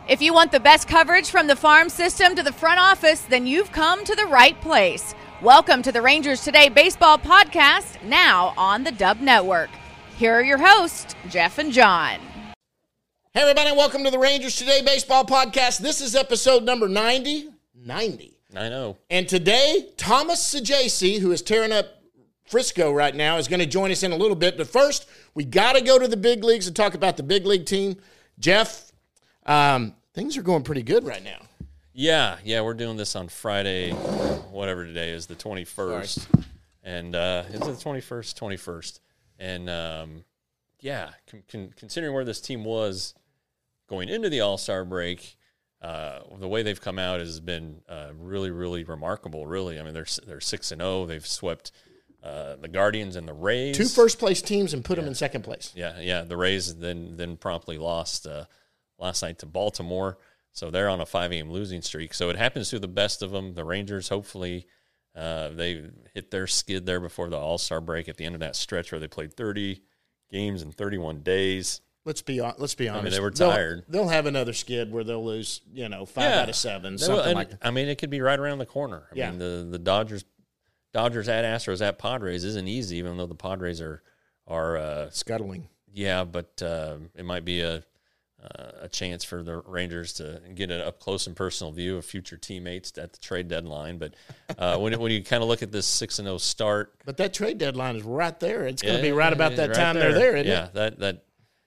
If you want the best coverage from the farm system to the front office, then you've come to the right place. Welcome to the Rangers Today Baseball Podcast, now on the Dub Network. Here are your hosts, Jeff and John. Hey, everybody, welcome to the Rangers Today Baseball Podcast. This is episode number 90. 90. I know. And today, Thomas Saggese, who is tearing up Frisco right now, is going to join us in a little bit. But first, we got to go to the big leagues and talk about the big league team. Jeff, things are going pretty good right now. Yeah, we're doing this on Friday, whatever today is, the 21st. Sorry. And is it the 21st? And, considering where this team was going into the All-Star break, the way they've come out has been really, really remarkable, really. I mean, they're 6-0. They've swept the Guardians and the Rays. Two first-place teams and put them in second place. Yeah. The Rays then promptly lost last night to Baltimore. So they're on a 5-game losing streak. So it happens to the best of them. The Rangers, hopefully, they hit their skid there before the All-Star break at the end of that stretch where they played 30 games in 31 days. Let's be honest. I mean, they were tired. They'll have another skid where they'll lose, 5 out of 7, something like that. I mean, it could be right around the corner. I mean, the Dodgers at Astros at Padres isn't easy, even though the Padres are scuttling. Yeah, but it might be a chance for the Rangers to get an up-close and personal view of future teammates at the trade deadline. But when you kind of look at this 6-0 start. But that trade deadline is right there. It's going to be right about that time they're there, isn't it?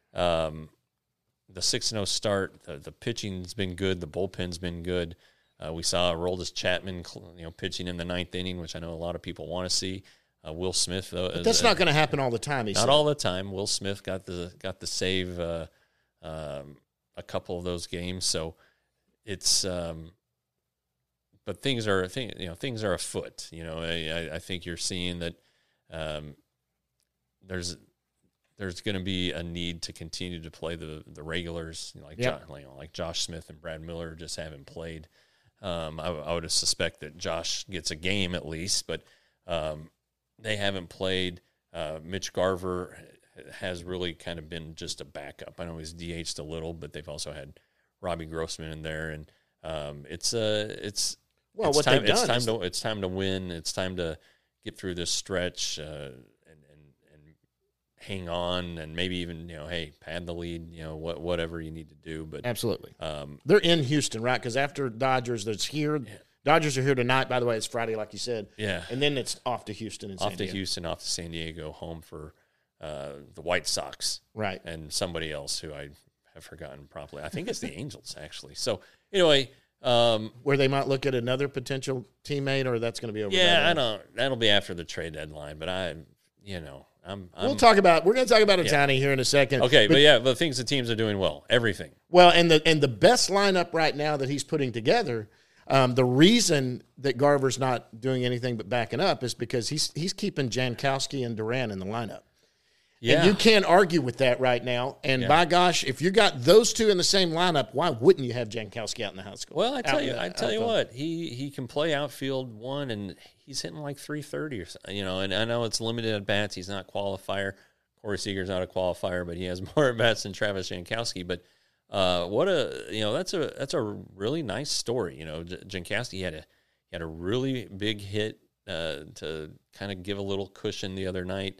The 6-0 start, the pitching's been good, the bullpen's been good. We saw Aroldis Chapman, pitching in the 9th inning, which I know a lot of people want to see. Will Smith, though, but that's not going to happen all the time. Not all the time. Will Smith got the save a couple of those games, so it's. But things are afoot. I think you're seeing that there's going to be a need to continue to play the regulars, like Josh Smith and Brad Miller just haven't played. I would suspect that Josh gets a game at least, but they haven't played. Mitch Garver has really kind of been just a backup. I know he's DH'd a little, but they've also had Robbie Grossman in there, and it's time to win. It's time to get through this stretch and hang on, and maybe even pad the lead. Whatever you need to do. But absolutely, they're in Houston, right? Because after Dodgers, that's here. Yeah. Dodgers are here tonight. By the way, it's Friday, like you said. Yeah, and then it's off to Houston and San Diego. Off to San Diego, home for the White Sox, right? And somebody else who I have forgotten properly. I think it's the Angels, actually. So anyway, where they might look at another potential teammate, or that's going to be over. Yeah, I don't. That'll be after the trade deadline. But we're going to talk about Ohtani here in a second. Okay, but the things the teams are doing well, everything. Well, and the best lineup right now that he's putting together. The reason that Garver's not doing anything but backing up is because he's keeping Jankowski and Duran in the lineup. Yeah. And you can't argue with that right now. And by gosh, if you got those two in the same lineup, why wouldn't you have Jankowski out in the house? Well, I tell you what, he can play outfield one, and he's hitting like 330 or something. And I know it's limited at bats. He's not a qualifier. Corey Seager's not a qualifier, but he has more at bats than Travis Jankowski. But that's a really nice story. Jankowski had a really big hit to kind of give a little cushion the other night.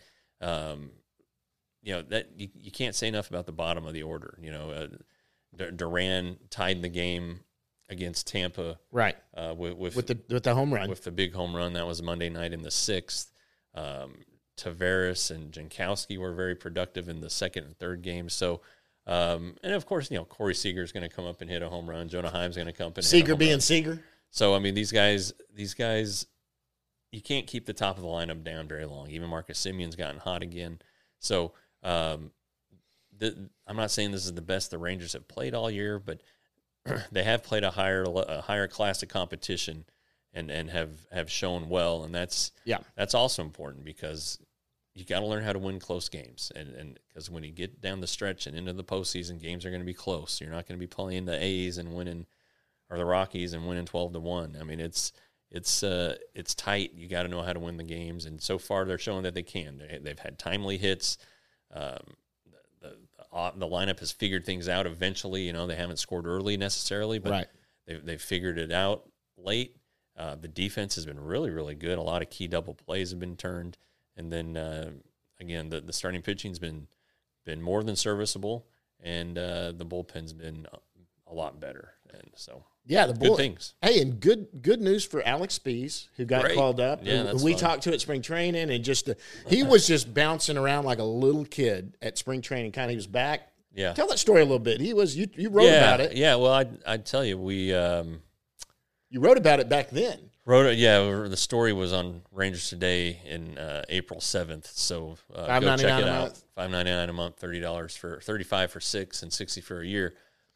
That you can't say enough about the bottom of the order. Duran tied the game against Tampa, right? With the home run, with the big home run that was Monday night in the 6th. Taveras and Jankowski were very productive in the 2nd and 3rd games. So. And of course, Corey Seager is going to come up and hit a home run. Jonah Heim's going to come up and hit a home run. Seager being Seager. So I mean, these guys, you can't keep the top of the lineup down very long. Even Marcus Simeon's gotten hot again. So I'm not saying this is the best the Rangers have played all year, but they have played a higher class of competition and have shown well, and that's also important because you got to learn how to win close games, and because when you get down the stretch and into the postseason, games are going to be close. You're not going to be playing the A's and winning, or the Rockies and winning 12-1. I mean, it's tight. You got to know how to win the games, and so far they're showing that they can. They've had timely hits. The the lineup has figured things out eventually. You know, they haven't scored early necessarily, but Right. they've figured it out late. The defense has been really, really good. A lot of key double plays have been turned. And then, again, the starting pitching's been more than serviceable, and the bullpen's been a lot better. And so, Yeah, good things. Hey, and good news for Alex Spees, who got Great. called up. Yeah, who that's we fun. talked to at spring training, and he was just bouncing around like a little kid at spring training. He was back. Yeah. Tell that story a little bit. You wrote about it. Yeah, well, I'd tell you, we You wrote about it back then. the story was on Rangers Today in April 7th. So go $5.99 check it a out. month. $5.99 a month, $35 for 6 and $60 for a year.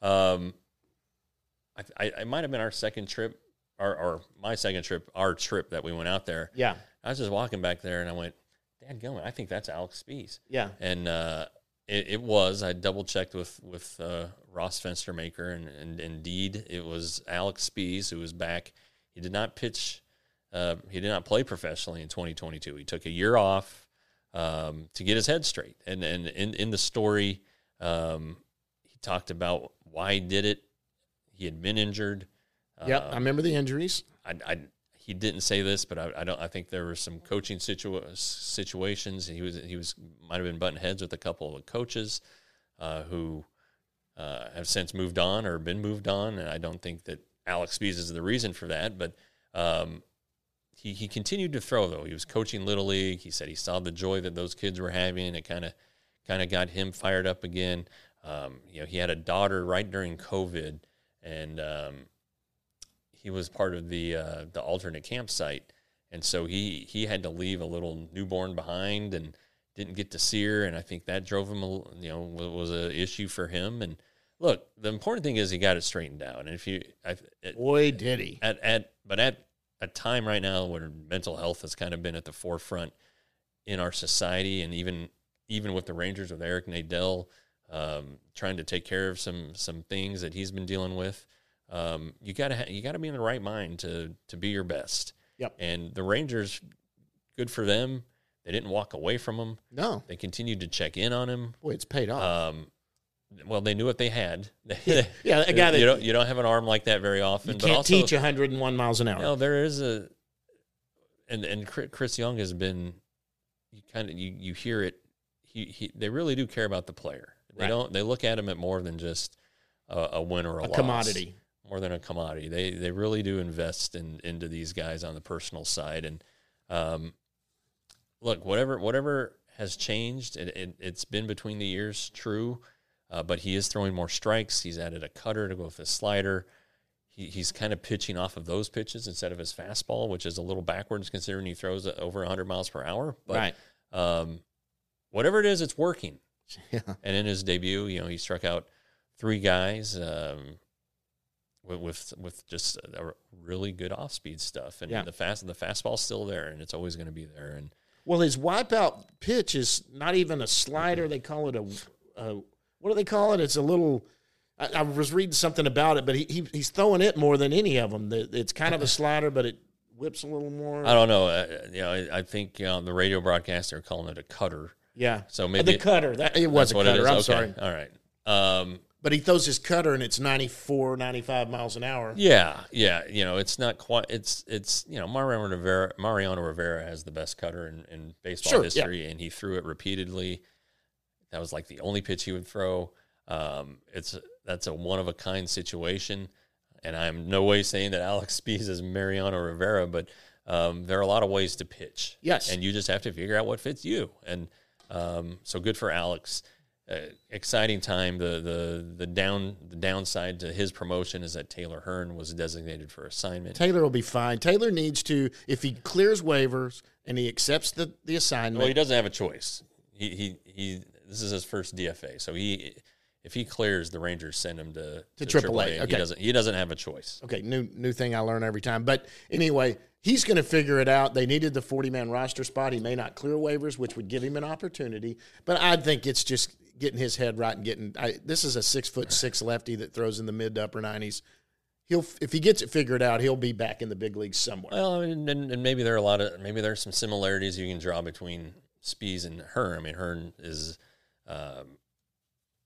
I might have been our second trip, or my second trip, our trip that we went out there. Yeah. I was just walking back there, and I went, "Dadgummit, I think that's Alex Spees." Yeah. And it was. I double checked with Ross Fenstermaker, and indeed it was Alex Spees who was back. He did not pitch. He did not play professionally in 2022. He took a year off to get his head straight. And in the story, he talked about why he did it. He had been injured. Yep, I remember the injuries. He didn't say this, but I think there were some coaching situations. He might have been butting heads with a couple of the coaches who have since moved on or been moved on, and I don't think that Alex Spees is the reason for that. But he continued to throw, though. He was coaching Little League. He said he saw the joy that those kids were having. It kind of got him fired up again. He had a daughter right during COVID, and he was part of the alternate campsite, and so he had to leave a little newborn behind and didn't get to see her, and I think that drove him, was an issue for him. And look, the important thing is he got it straightened out. And Boy, did he! But at a time right now where mental health has kind of been at the forefront in our society, and even with the Rangers, with Eric Nadel trying to take care of some things that he's been dealing with. You gotta be in the right mind to be your best. Yep. And the Rangers, good for them. They didn't walk away from him. No. They continued to check in on him. Boy, it's paid off. Well, they knew what they had. Yeah, a guy that you don't have an arm like that very often. you but can't also, teach 101 miles an hour. No, there is and Chris Young has been. You hear it. They really do care about the player. They Right. don't. They look at him at more than just a win or a loss. Commodity. More than a commodity. They really do invest into these guys on the personal side. And look, whatever has changed, it's been between the years, true. But he is throwing more strikes. He's added a cutter to go with his slider. He's kind of pitching off of those pitches instead of his fastball, which is a little backwards considering he throws it over 100 miles per hour. But Right. Whatever it is, it's working. Yeah. And in his debut, he struck out 3 guys with just a really good off-speed stuff. And Yeah. the fastball's still there, and it's always going to be there. And Well, his wipeout pitch is not even a slider. They call it what do they call it? It's a little. I was reading something about it, but he's throwing it more than any of them. It's kind of a slider, but it whips a little more. I don't know. I think the radio broadcaster are calling it a cutter. Yeah. So maybe the cutter. It was a what cutter. it is. I'm Okay. sorry. All right. But he throws his cutter, and it's 94, 95 miles an hour. Yeah. It's not quite. It's Mariano Rivera has the best cutter in baseball history, and he threw it repeatedly. That was like the only pitch he would throw. That's a one of a kind situation, and I'm no way saying that Alex Spees is Mariano Rivera, but there are a lot of ways to pitch. Yes, and you just have to figure out what fits you. And so good for Alex. Exciting time. The downside to his promotion is that Taylor Hearn was designated for assignment. Taylor will be fine. Taylor needs to, if he clears waivers and he accepts the assignment. Well, he doesn't have a choice. He this is his first DFA, so if he clears, the Rangers send him to AAA. Okay. He doesn't have a choice. Okay, new thing I learn every time. But anyway, he's going to figure it out. They needed the 40-man roster spot. He may not clear waivers, which would give him an opportunity. But I think it's just getting his head right and this is a 6'6" lefty that throws in the mid to upper 90s. If he gets it figured out, he'll be back in the big leagues somewhere. Well, and maybe there are some similarities you can draw between Spees and Hearn. I mean, Hearn is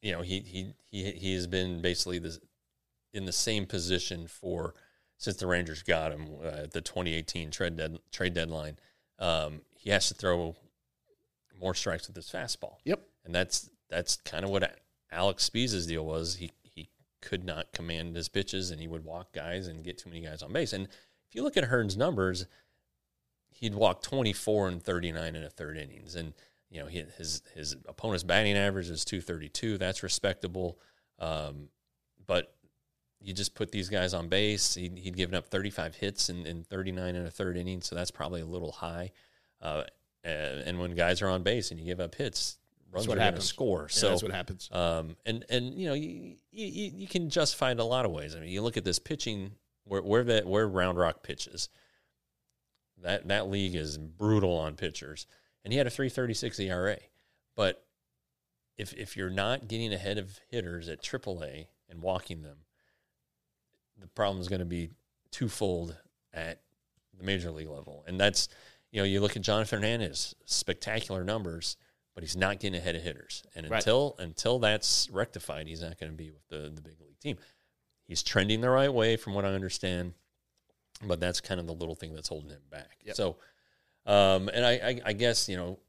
you know, he has been basically in the same position since the Rangers got him at the 2018 trade deadline. He has to throw more strikes with his fastball. Yep. And that's kind of what Alex Spiez's deal was. He could not command his pitches, and he would walk guys and get too many guys on base. And if you look at Hearn's numbers, he'd walk 24 and 39 in a third innings. And, you know, his opponent's batting average is 232. That's respectable. But you just put these guys on base. He'd given up 35 hits in 39 in a third inning, so that's probably a little high. And when guys are on base and you give up hits, runs are going to score. Yeah, so that's what happens. And you know, you can justify it in a lot of ways. I mean, you look at this pitching where Round Rock pitches. That league is brutal on pitchers, and he had a 3.36 ERA. But if you're not getting ahead of hitters at AAA and walking them, the problem is going to be twofold at the major league level. And that's, you know, you look at Jonathan Hernandez, spectacular numbers, but he's not getting ahead of hitters. And until that's rectified, he's not going to be with the big league team. He's trending the right way from what I understand, but that's kind of the little thing that's holding him back. Yep. So, and I guess, you know,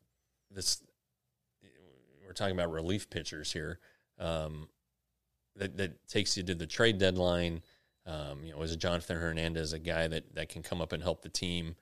we're talking about relief pitchers here. That takes you to the trade deadline. You know, is Jonathan Hernandez a guy that can come up and help the team?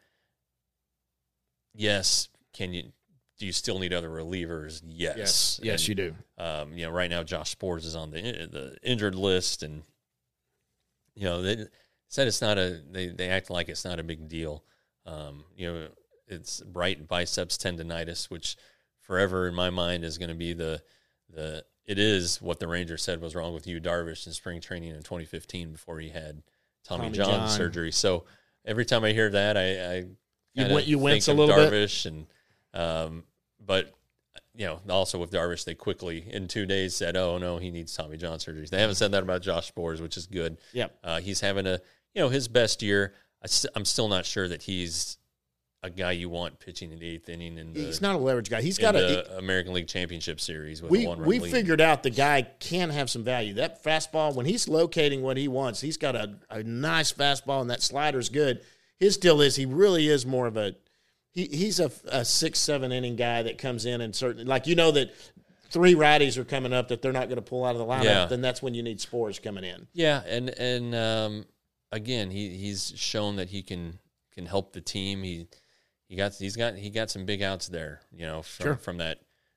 Yes. Do you still need other relievers? Yes. Yes, you do. You know, right now Josh Sborz is on the injured list, and you know they said it's not they act like it's not a big deal. You know, it's right biceps tendonitis, which forever in my mind is going to be it is what the Rangers said was wrong with Yu Darvish in spring training in 2015 before he had Tommy John surgery. So every time I hear that, I you wince a think little of bit. Darvish and but you know, also with Darvish, they quickly in 2 days said, "Oh no, he needs Tommy John surgery." They haven't said that about Josh Sborz, which is good. Yep. He's having his best year. I'm still not sure that he's a guy you want pitching in the eighth inning. He's not a leverage guy. He's got a American League Championship Series with we a one-run we lead. figured out the guy can have some value. That fastball, when he's locating what he wants, he's got a nice fastball, and that slider's good. His deal is he really is more of a he's a 6-7 inning guy that comes in and certainly, like, you know, that 3 righties are coming up that they're not going to pull out of the lineup. Yeah. Then that's when you need Sborz coming in. Yeah, and again, he's shown that he can help the team. He got some big outs there, you know, from that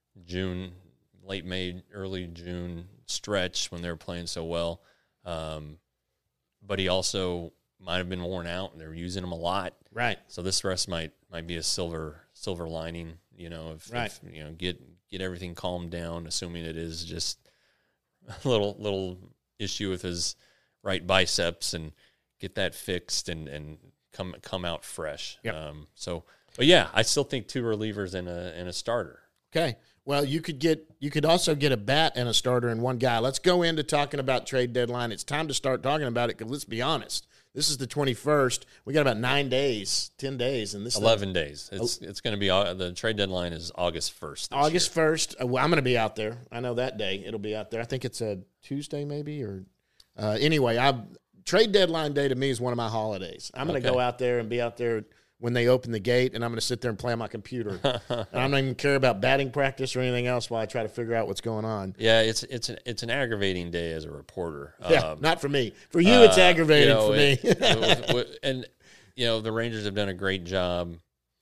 late May, early June stretch when they were playing so well. But he also might have been worn out, and they were using him a lot. Right. So this rest might be a silver lining, you know, if you know, get everything calmed down, assuming it is just a little issue with his right biceps, and get that fixed and come out fresh. Yep. But yeah, I still think 2 relievers and a starter. Okay. Well, you could also get a bat and a starter in one guy. Let's go into talking about trade deadline. It's time to start talking about it, because let's be honest. This is the 21st. We got about 10 days, and this 11 days. It's going to be the trade deadline is August 1st. August 1st. Well, I'm going to be out there. I know that day it'll be out there. I think it's a Tuesday maybe, or anyway. Trade deadline day to me is one of my holidays. I'm going to go out there and be out there when they open the gate, and I'm going to sit there and play on my computer. And I don't even care about batting practice or anything else while I try to figure out what's going on. Yeah, it's an aggravating day as a reporter. Yeah, not for me. For you, it's aggravating for me. And you know, the Rangers have done a great job.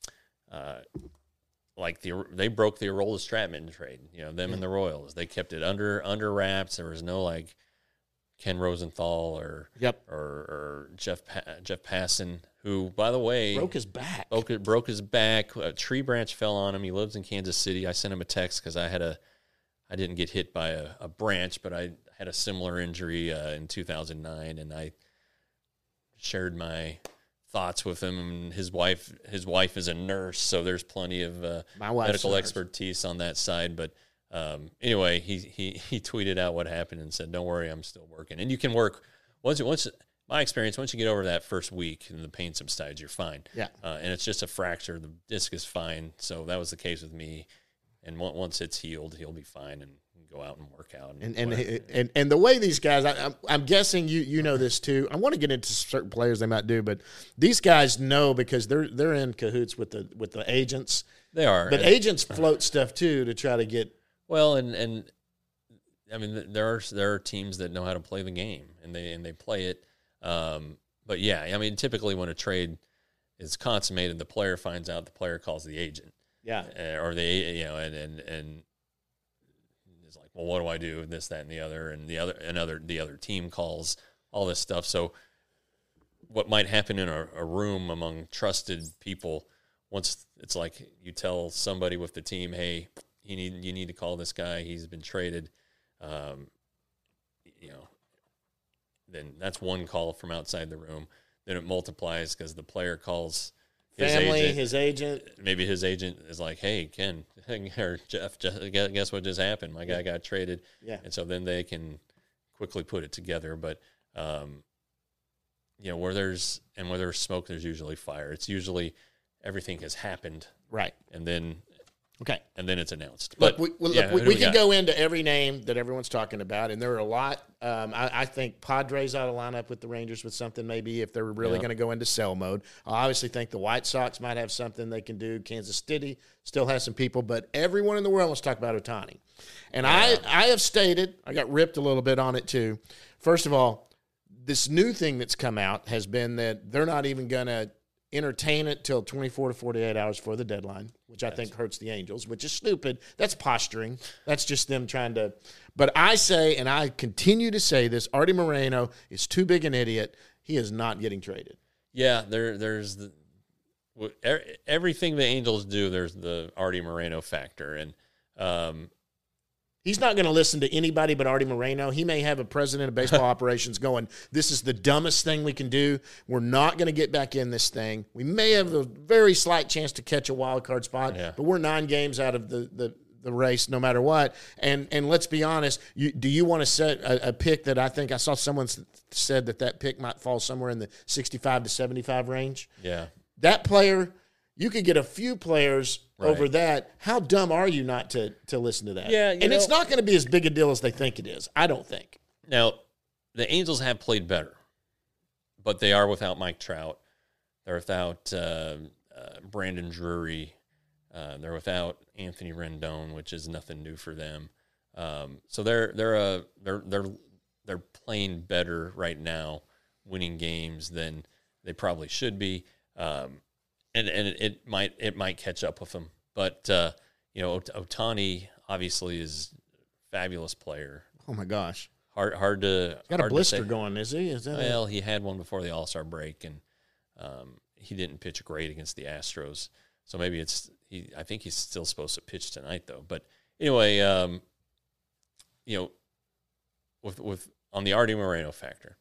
They broke the Aroldis Stratman trade. You know, them and the Royals. They kept it under wraps. There was no like Ken Rosenthal or Jeff Passan, who, by the way, broke his back. Broke his back. A tree branch fell on him. He lives in Kansas City. I sent him a text because I didn't get hit by a branch, but I had a similar injury in 2009, and I shared my thoughts with him. And his wife is a nurse, so there's plenty of medical expertise on that side. But anyway, he tweeted out what happened and said, "Don't worry, I'm still working." And you can work once my experience, once you get over that first week and the pain subsides, you're fine. Yeah. And it's just a fracture. The disc is fine. So that was the case with me. And once it's healed, he'll be fine and go out and work out. And the way these guys, I'm guessing you know this too. I want to get into certain players they might do, but these guys know because they're in cahoots with the agents. They are, but agents float stuff too to try to get. Well, and I mean there are teams that know how to play the game and they play it. But yeah, I mean typically when a trade is consummated, the player finds out, the player calls the agent. Yeah, or they and it's like, well, what do I do? This, that, and the other, and the other team calls all this stuff. So what might happen in a room among trusted people, once it's like you tell somebody with the team, hey, you need to call this guy. He's been traded. Then that's one call from outside the room. Then it multiplies because the player calls his agent. Maybe his agent is like, hey, Ken or Jeff, guess what just happened? My guy got traded. Yeah. And so then they can quickly put it together. But, where there's smoke, there's usually fire. It's usually everything has happened. Right. And then Okay. And then it's announced. But we can go into every name that everyone's talking about, and there are a lot. I think Padres ought to line up with the Rangers with something maybe if they're really going to go into sell mode. I obviously think the White Sox might have something they can do. Kansas City still has some people, but everyone in the world wants to talk about Ohtani. And I have stated, I got ripped a little bit on it too. First of all, this new thing that's come out has been that they're not even going to entertain it till 24 to 48 hours before the deadline, which I think hurts the Angels, which is stupid. That's posturing. That's just them trying to – but I say, and I continue to say this, Artie Moreno is too big an idiot. He is not getting traded. Yeah, there's everything the Angels do, there's the Artie Moreno factor. And he's not going to listen to anybody but Artie Moreno. He may have a president of baseball operations going, this is the dumbest thing we can do. We're not going to get back in this thing. We may have a very slight chance to catch a wild card spot, but we're 9 games out of the race no matter what. And let's be honest, do you want to set a pick that I think I saw someone said that pick might fall somewhere in the 65 to 75 range? Yeah. That player, you could get a few players over that. How dumb are you not to listen to that? Yeah, and it's not going to be as big a deal as they think it is. I don't think. Now, the Angels have played better, but they are without Mike Trout. They're without Brandon Drury. They're without Anthony Rendon, which is nothing new for them. So they're playing better right now, winning games than they probably should be. And it might catch up with them, but Ohtani obviously is a fabulous player. Oh my gosh, hard to got a blister going, is he? Well, he had one before the All-Star break, and he didn't pitch great against the Astros. So maybe I think he's still supposed to pitch tonight, though. But anyway, with on the Artie Moreno factor,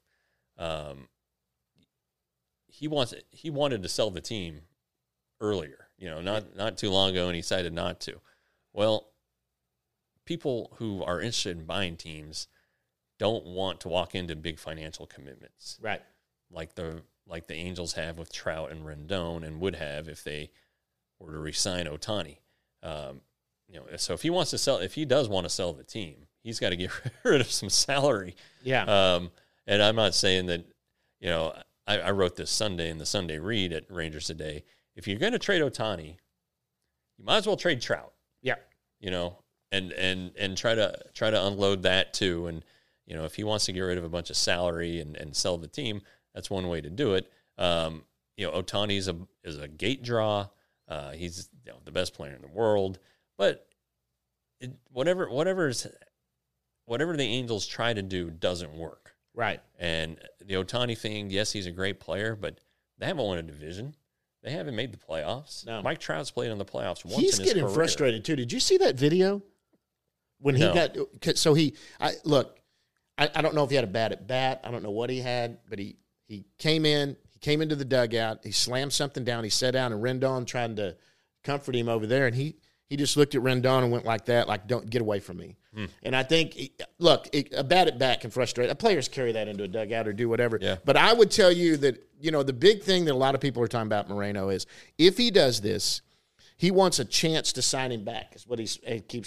he wanted to sell the team earlier, not too long ago, and he decided not to. Well, people who are interested in buying teams don't want to walk into big financial commitments, right? Like the Angels have with Trout and Rendon, and would have if they were to re-sign Ohtani. So if he does want to sell the team, he's got to get rid of some salary. Yeah. And I'm not saying that, I wrote this Sunday in the Sunday Read at Rangers Today. If you're going to trade Ohtani, you might as well trade Trout. Yeah. And try to unload that too. And, if he wants to get rid of a bunch of salary and sell the team, that's one way to do it. Ohtani is a gate draw. He's the best player in the world. But whatever the Angels try to do doesn't work. Right. And the Ohtani thing, yes, he's a great player, but they haven't won a division. They haven't made the playoffs. No. Mike Trout's played in the playoffs once He's in his career. getting frustrated, too. Did you see that video? When he got – so I don't know if he had a bad at bat. I don't know what he had, but he came in. He came into the dugout. He slammed something down. He sat down, and Rendon trying to comfort him over there, and he just looked at Rendon and went like that, like, don't get away from me. And I think, a bad at bat can frustrate. Players carry that into a dugout or do whatever. Yeah. But I would tell you that, the big thing that a lot of people are talking about Moreno is if he does this, he wants a chance to sign him back, is what he keeps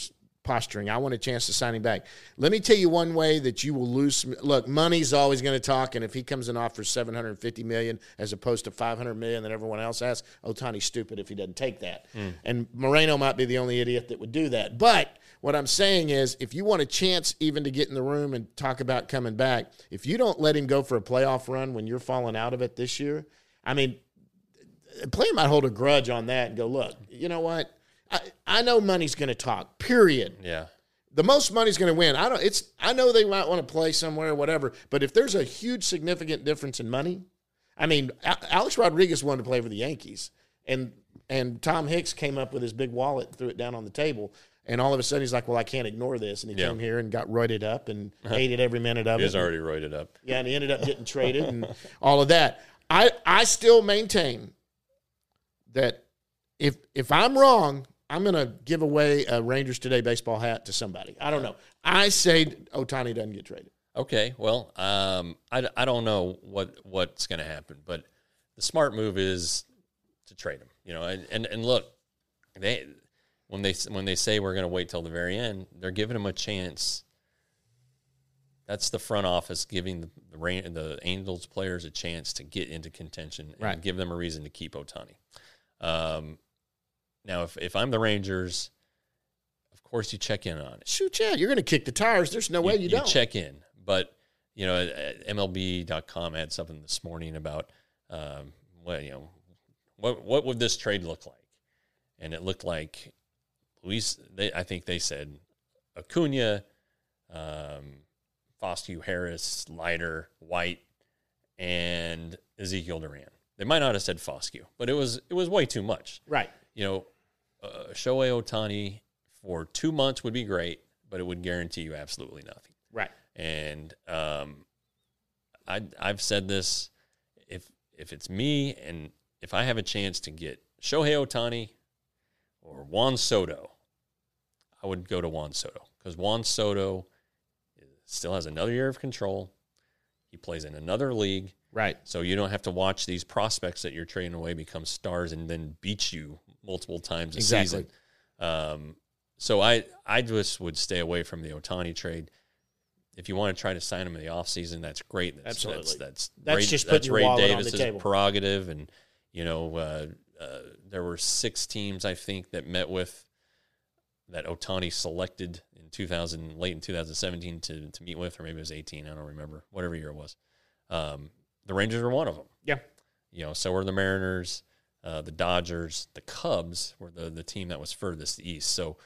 posturing. I want a chance to sign him back. Let me tell you one way that you will lose. Look, money's always going to talk, and if he comes in off for $750 million as opposed to $500 million that everyone else has, Ohtani's stupid if he doesn't take that. And Moreno might be the only idiot that would do that. But what I'm saying is, if you want a chance even to get in the room and talk about coming back, if you don't let him go for a playoff run when you're falling out of it this year, I mean, a player might hold a grudge on that and go, look, you know what? I know money's going to talk, period. Yeah. The most money's going to win. I know they might want to play somewhere or whatever, but if there's a huge significant difference in money, I mean, Alex Rodriguez wanted to play for the Yankees, and Tom Hicks came up with his big wallet and threw it down on the table, and all of a sudden he's like, well, I can't ignore this, and he came here and got roided up and hated every minute of it. He was already roided up. Yeah, and he ended up getting traded and all of that. I still maintain that if I'm wrong, I'm going to give away a Rangers Today baseball hat to somebody. I don't know. I say Ohtani doesn't get traded. Okay, well, I don't know what's going to happen, but the smart move is to trade him. You know, and look, when they say we're going to wait till the very end, they're giving him a chance. That's the front office giving the Angels players a chance to get into contention and give them a reason to keep Ohtani. Now, if I'm the Rangers, of course you check in on it. Shoot, yeah, you're going to kick the tires. There's no way you don't. You check in. But, you know, MLB.com had something this morning about, what would this trade look like? And it looked like I think they said Acuna, Foscue, Harris, Leiter, White, and Ezekiel Duran. They might not have said Foscue, but it was way too much. Right. You know, Shohei Ohtani for 2 months would be great, but it would guarantee you absolutely nothing. Right. And I've said this, if it's me and if I have a chance to get Shohei Ohtani or Juan Soto, I would go to Juan Soto because Juan Soto still has another year of control. He plays in another league. Right. So you don't have to watch these prospects that you're trading away become stars and then beat you multiple times a season. So I just would stay away from the Ohtani trade. If you want to try to sign him in the offseason, that's great. Absolutely. That's just putting your wallet on the Davis's table. prerogative. And, you know, there were 6 teams, I think, that met with that Ohtani selected in late in 2017 to meet with, or maybe it was 18. I don't remember. Whatever year it was. The Rangers were one of them. Yeah. You know, so were the Mariners, the Dodgers, the Cubs were the team that was furthest east. So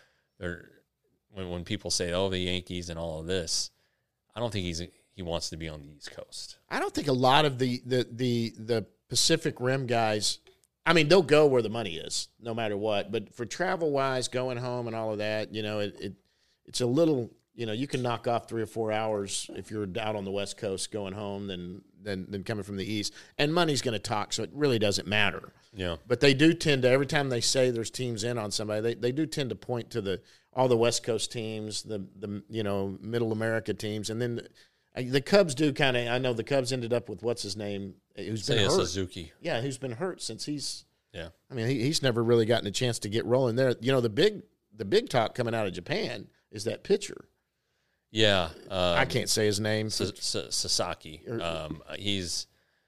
when people say, oh, the Yankees and all of this, I don't think he wants to be on the East Coast. I don't think a lot of the Pacific Rim guys, I mean, they'll go where the money is, no matter what. But for travel-wise, going home and all of that, you know, it's a little, you know, you can knock off 3 or 4 hours if you're out on the West Coast going home than coming from the East. And money's going to talk, so it really doesn't matter. Yeah. But they do tend to, every time they say there's teams in on somebody, they do tend to point to all the West Coast teams, the you know, Middle America teams, and then the Cubs do kind of. I know the Cubs ended up with what's his name, who's been hurt. Suzuki. Yeah, who's been hurt since he's. Yeah. I mean, he's never really gotten a chance to get rolling there. You know, the big talk coming out of Japan is that pitcher. Yeah, I can't say his name. Sasaki. He's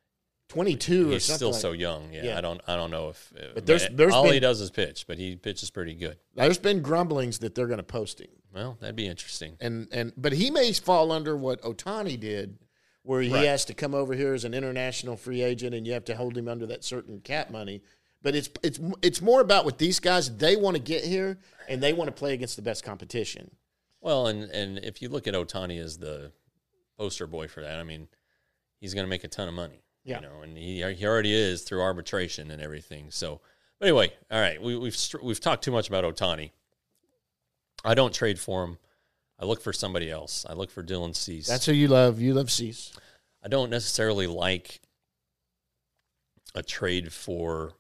22. He's or still like. So young. Yeah, I don't know if. But there's all been, he does is pitch, but he pitches pretty good. There's been grumblings that they're going to post him. Well, that'd be interesting. But he may fall under what Ohtani did, where he has to come over here as an international free agent, and you have to hold him under that certain cap money. But it's more about with these guys, they want to get here and they want to play against the best competition. Well, and if you look at Ohtani as the poster boy for that, I mean, he's going to make a ton of money. Yeah. You know, and he already is through arbitration and everything. So, but anyway, all right, we've talked too much about Ohtani. I don't trade for him. I look for somebody else. I look for Dylan Cease. That's who you love. You love Cease. I don't necessarily like a trade for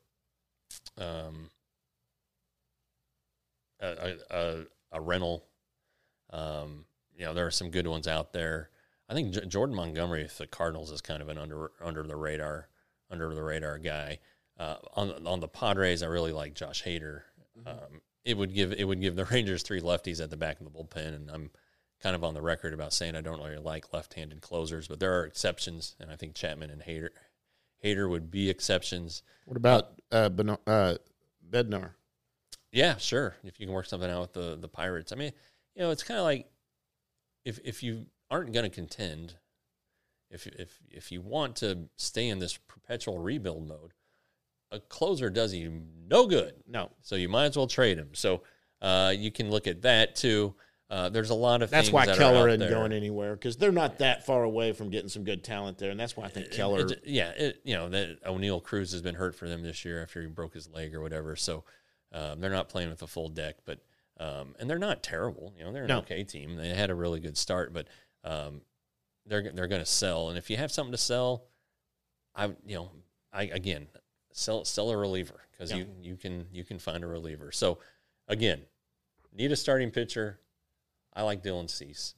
a rental. You know, there are some good ones out there. I think Jordan Montgomery with the Cardinals is kind of an under the radar guy. On the Padres, I really like Josh Hader. it would give the Rangers 3 lefties at the back of the bullpen, and I'm kind of on the record about saying I don't really like left-handed closers, but there are exceptions, and I think Chapman and Hader would be exceptions. What about Bednar? Yeah, sure. If you can work something out with the Pirates. I mean, it's kind of like if you aren't going to contend, if you want to stay in this perpetual rebuild mode, a closer does you no good. No. So you might as well trade him. So you can look at that too. There's a lot of that's things why that Keller are out isn't there. going anywhere, because they're not that far away from getting some good talent there, and that's why I think Keller. That O'Neal Cruz has been hurt for them this year after he broke his leg or whatever. So they're not playing with a full deck, but and they're not terrible. They're an okay team. They had a really good start, but they're going to sell. And if you have something to sell, sell a reliever, because you can find a reliever. So again, need a starting pitcher. I like Dylan Cease.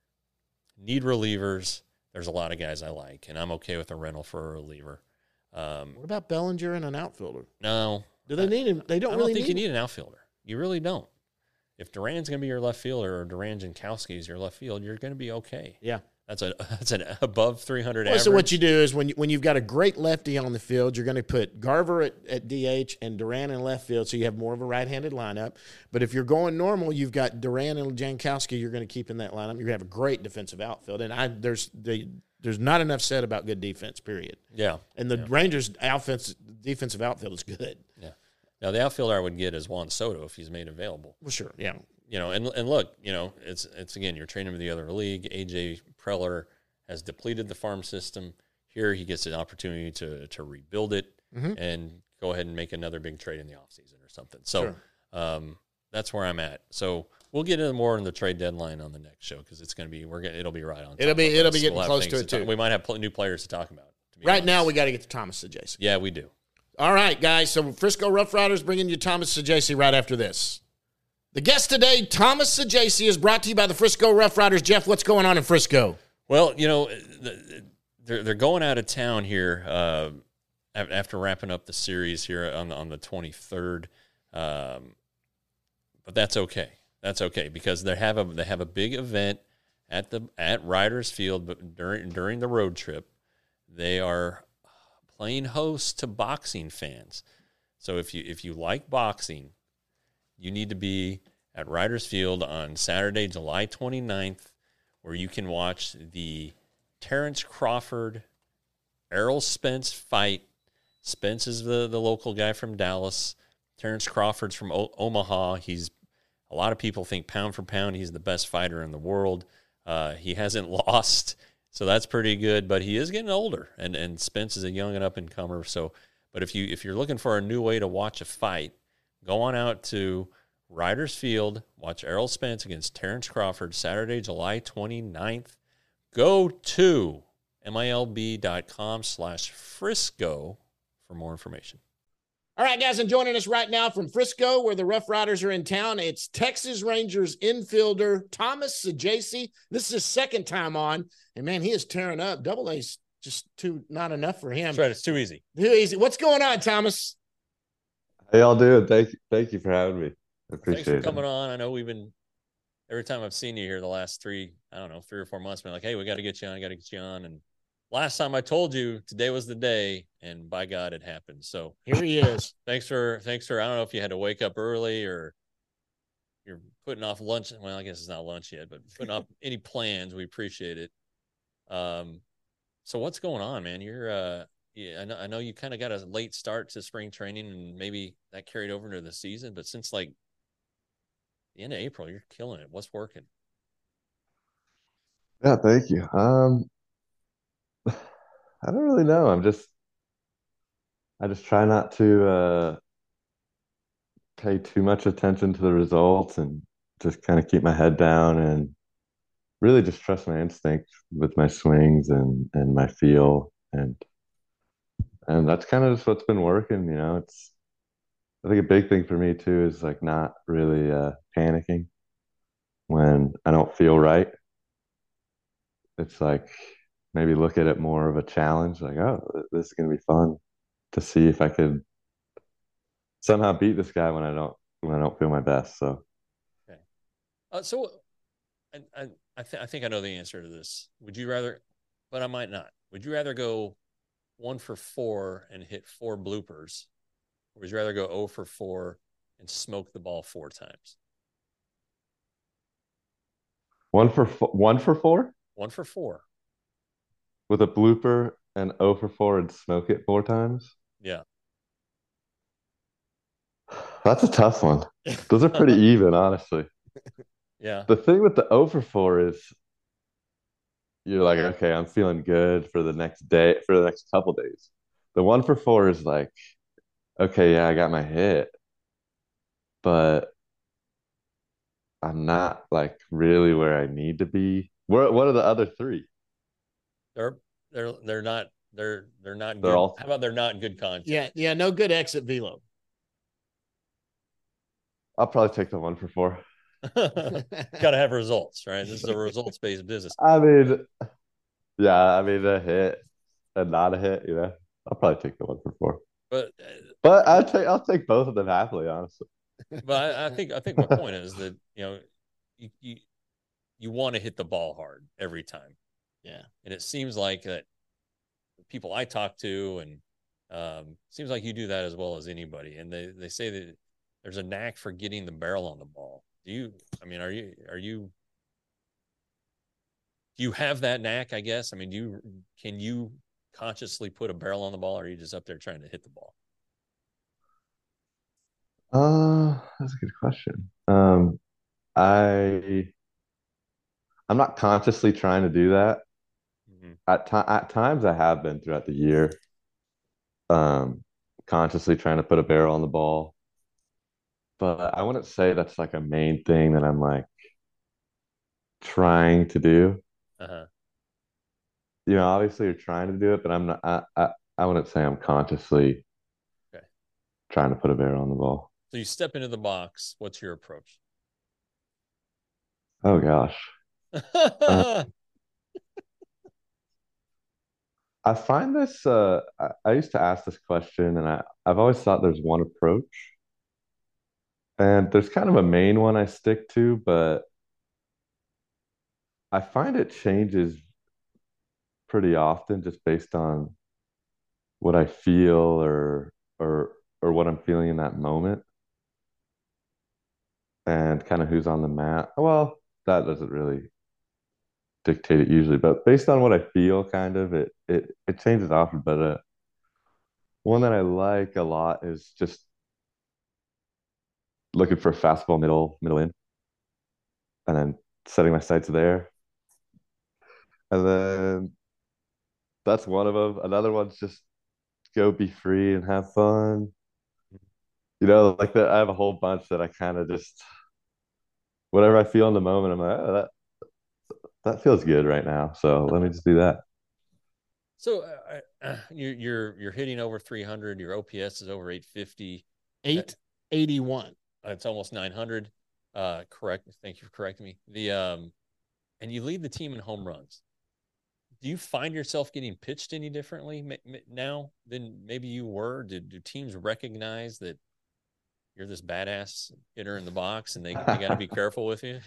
Need relievers. There's a lot of guys I like, and I'm okay with a rental for a reliever. What about Bellinger and an outfielder? No. Do they need him? They don't really think you need an outfielder. You really don't. If Duran's going to be your left fielder or Duran Jankowski is your left field, you're going to be okay. Yeah. That's an above 300 average. So what you do is when you've got a great lefty on the field, you're going to put Garver at DH and Duran in left field, so you have more of a right-handed lineup. But if you're going normal, you've got Duran and Jankowski you're going to keep in that lineup. You're going to have a great defensive outfield. And there's not enough said about good defense, period. Yeah. And the Rangers' defensive outfield is good. Yeah. Now, the outfielder I would get is Juan Soto if he's made available. Well, sure, yeah. And look, it's again, you're trading him to the other league. AJ Preller has depleted the farm system. Here he gets an opportunity to rebuild it and go ahead and make another big trade in the offseason or something. So that's where I'm at. So we'll get into more on the trade deadline on the next show, because it's going to be it'll be right on. It'll be getting close to it too. We might have new players to talk about. Right now, we got to get to Thomas Saggese. Yeah, we do. All right, guys. So Frisco Rough Riders bringing you Thomas Saggese right after this. The guest today, Thomas Saggese, is brought to you by the Frisco Rough Riders. Jeff, what's going on in Frisco? Well, they're going out of town here after wrapping up the series here on the 23rd, but that's okay. That's okay, because they have a big event at Riders Field, but during the road trip, they are playing host to boxing fans. So if you like boxing, you need to be at Riders Field on Saturday, July 29th, where you can watch the Terrence Crawford, Errol Spence fight. Spence is the local guy from Dallas. Terrence Crawford's from Omaha. A lot of people think pound for pound, he's the best fighter in the world. He hasn't lost, so that's pretty good, but he is getting older, and Spence is a young and up-and-comer. But if you're looking for a new way to watch a fight, go on out to Riders Field, watch Errol Spence against Terrence Crawford, Saturday, July 29th. Go to MILB.com/Frisco for more information. All right, guys, and joining us right now from Frisco, where the Rough Riders are in town, it's Texas Rangers infielder Thomas Saggese. This is his second time on, and, man, he is tearing up. Double A's just not enough for him. That's right, it's too easy. Too easy. What's going on, Thomas? How y'all doing? Thank you for having me. I appreciate it. Thanks for coming on. I know we've been – every time I've seen you here the last 3 or 4 months, been like, hey, we got to get you on. And last time I told you today was the day, and by God, it happened. So here he is. Thanks for I don't know if you had to wake up early or you're putting off lunch. Well, I guess it's not lunch yet, but putting off any plans. We appreciate it. So what's going on, man? You're I know you kind of got a late start to spring training, and maybe that carried over into the season, but since like the end of April, you're killing it. What's working? Yeah, thank you. I don't really know. I just try not to pay too much attention to the results and just kind of keep my head down and really just trust my instinct with my swings and my feel, and that's kind of just what's been working. I think a big thing for me too is like not really panicking when I don't feel right. It's like maybe look at it more of a challenge, like, oh, this is going to be fun to see if I could somehow beat this guy when I when I don't feel my best. So Okay. So I think I know the answer to this. Would you rather, but I might not. Would you rather go 1 for 4 and hit 4 bloopers, or would you rather go 0 for 4 and smoke the ball 4 times? 1 for 4 1 for 4. with a blooper and 0 for 4 and smoke it 4 times. Yeah. That's a tough one. Those are pretty even, honestly. Yeah. The thing with the 0 for 4 is you're like, okay, I'm feeling good for the next day, for the next couple days. The 1 for 4 is like, okay, yeah, I got my hit, but I'm not like really where I need to be. What are the other three? They're they're not They're good. all How about they're not good content? Yeah, no good exit velo. I'll probably take the 1 for 4. Got to have results, right? This is a results based business. I mean, yeah, I mean a hit and not a hit, I'll probably take the 1 for 4. But I'll take both of them happily, honestly. but I think my point is that you want to hit the ball hard every time. Yeah. And it seems like that people I talk to, and seems like you do that as well as anybody. And they say that there's a knack for getting the barrel on the ball. Do you have that knack, I guess? I mean, can you consciously put a barrel on the ball, or are you just up there trying to hit the ball? That's a good question. I'm not consciously trying to do that. Mm-hmm. At times I have been throughout the year, consciously trying to put a barrel on the ball. But I wouldn't say that's like a main thing that I'm like trying to do. Uh-huh. Obviously you're trying to do it, but I'm not. I wouldn't say I'm consciously Okay. trying to put a barrel on the ball. So you step into the box. What's your approach? Oh gosh. I find this. I used to ask this question, and I've always thought there's one approach, and there's kind of a main one I stick to, but I find it changes pretty often just based on what I feel or what I'm feeling in that moment, and kind of who's on the mat. Well, that doesn't really dictate it usually, but based on what I feel, kind of it changes often. But one that I like a lot is just looking for a fastball middle in, and then setting my sights there. And then that's one of them. Another one's just go be free and have fun. Like that. I have a whole bunch that I kind of just whatever I feel in the moment. I'm like, oh, that feels good right now. So let me just do that. So you're hitting over 300. Your OPS is over 850. 881. It's almost 900. Correct. Thank you for correcting me. And you lead the team in home runs. Do you find yourself getting pitched any differently now than maybe you were? Do teams recognize that you're this badass hitter in the box, and they got to be careful with you?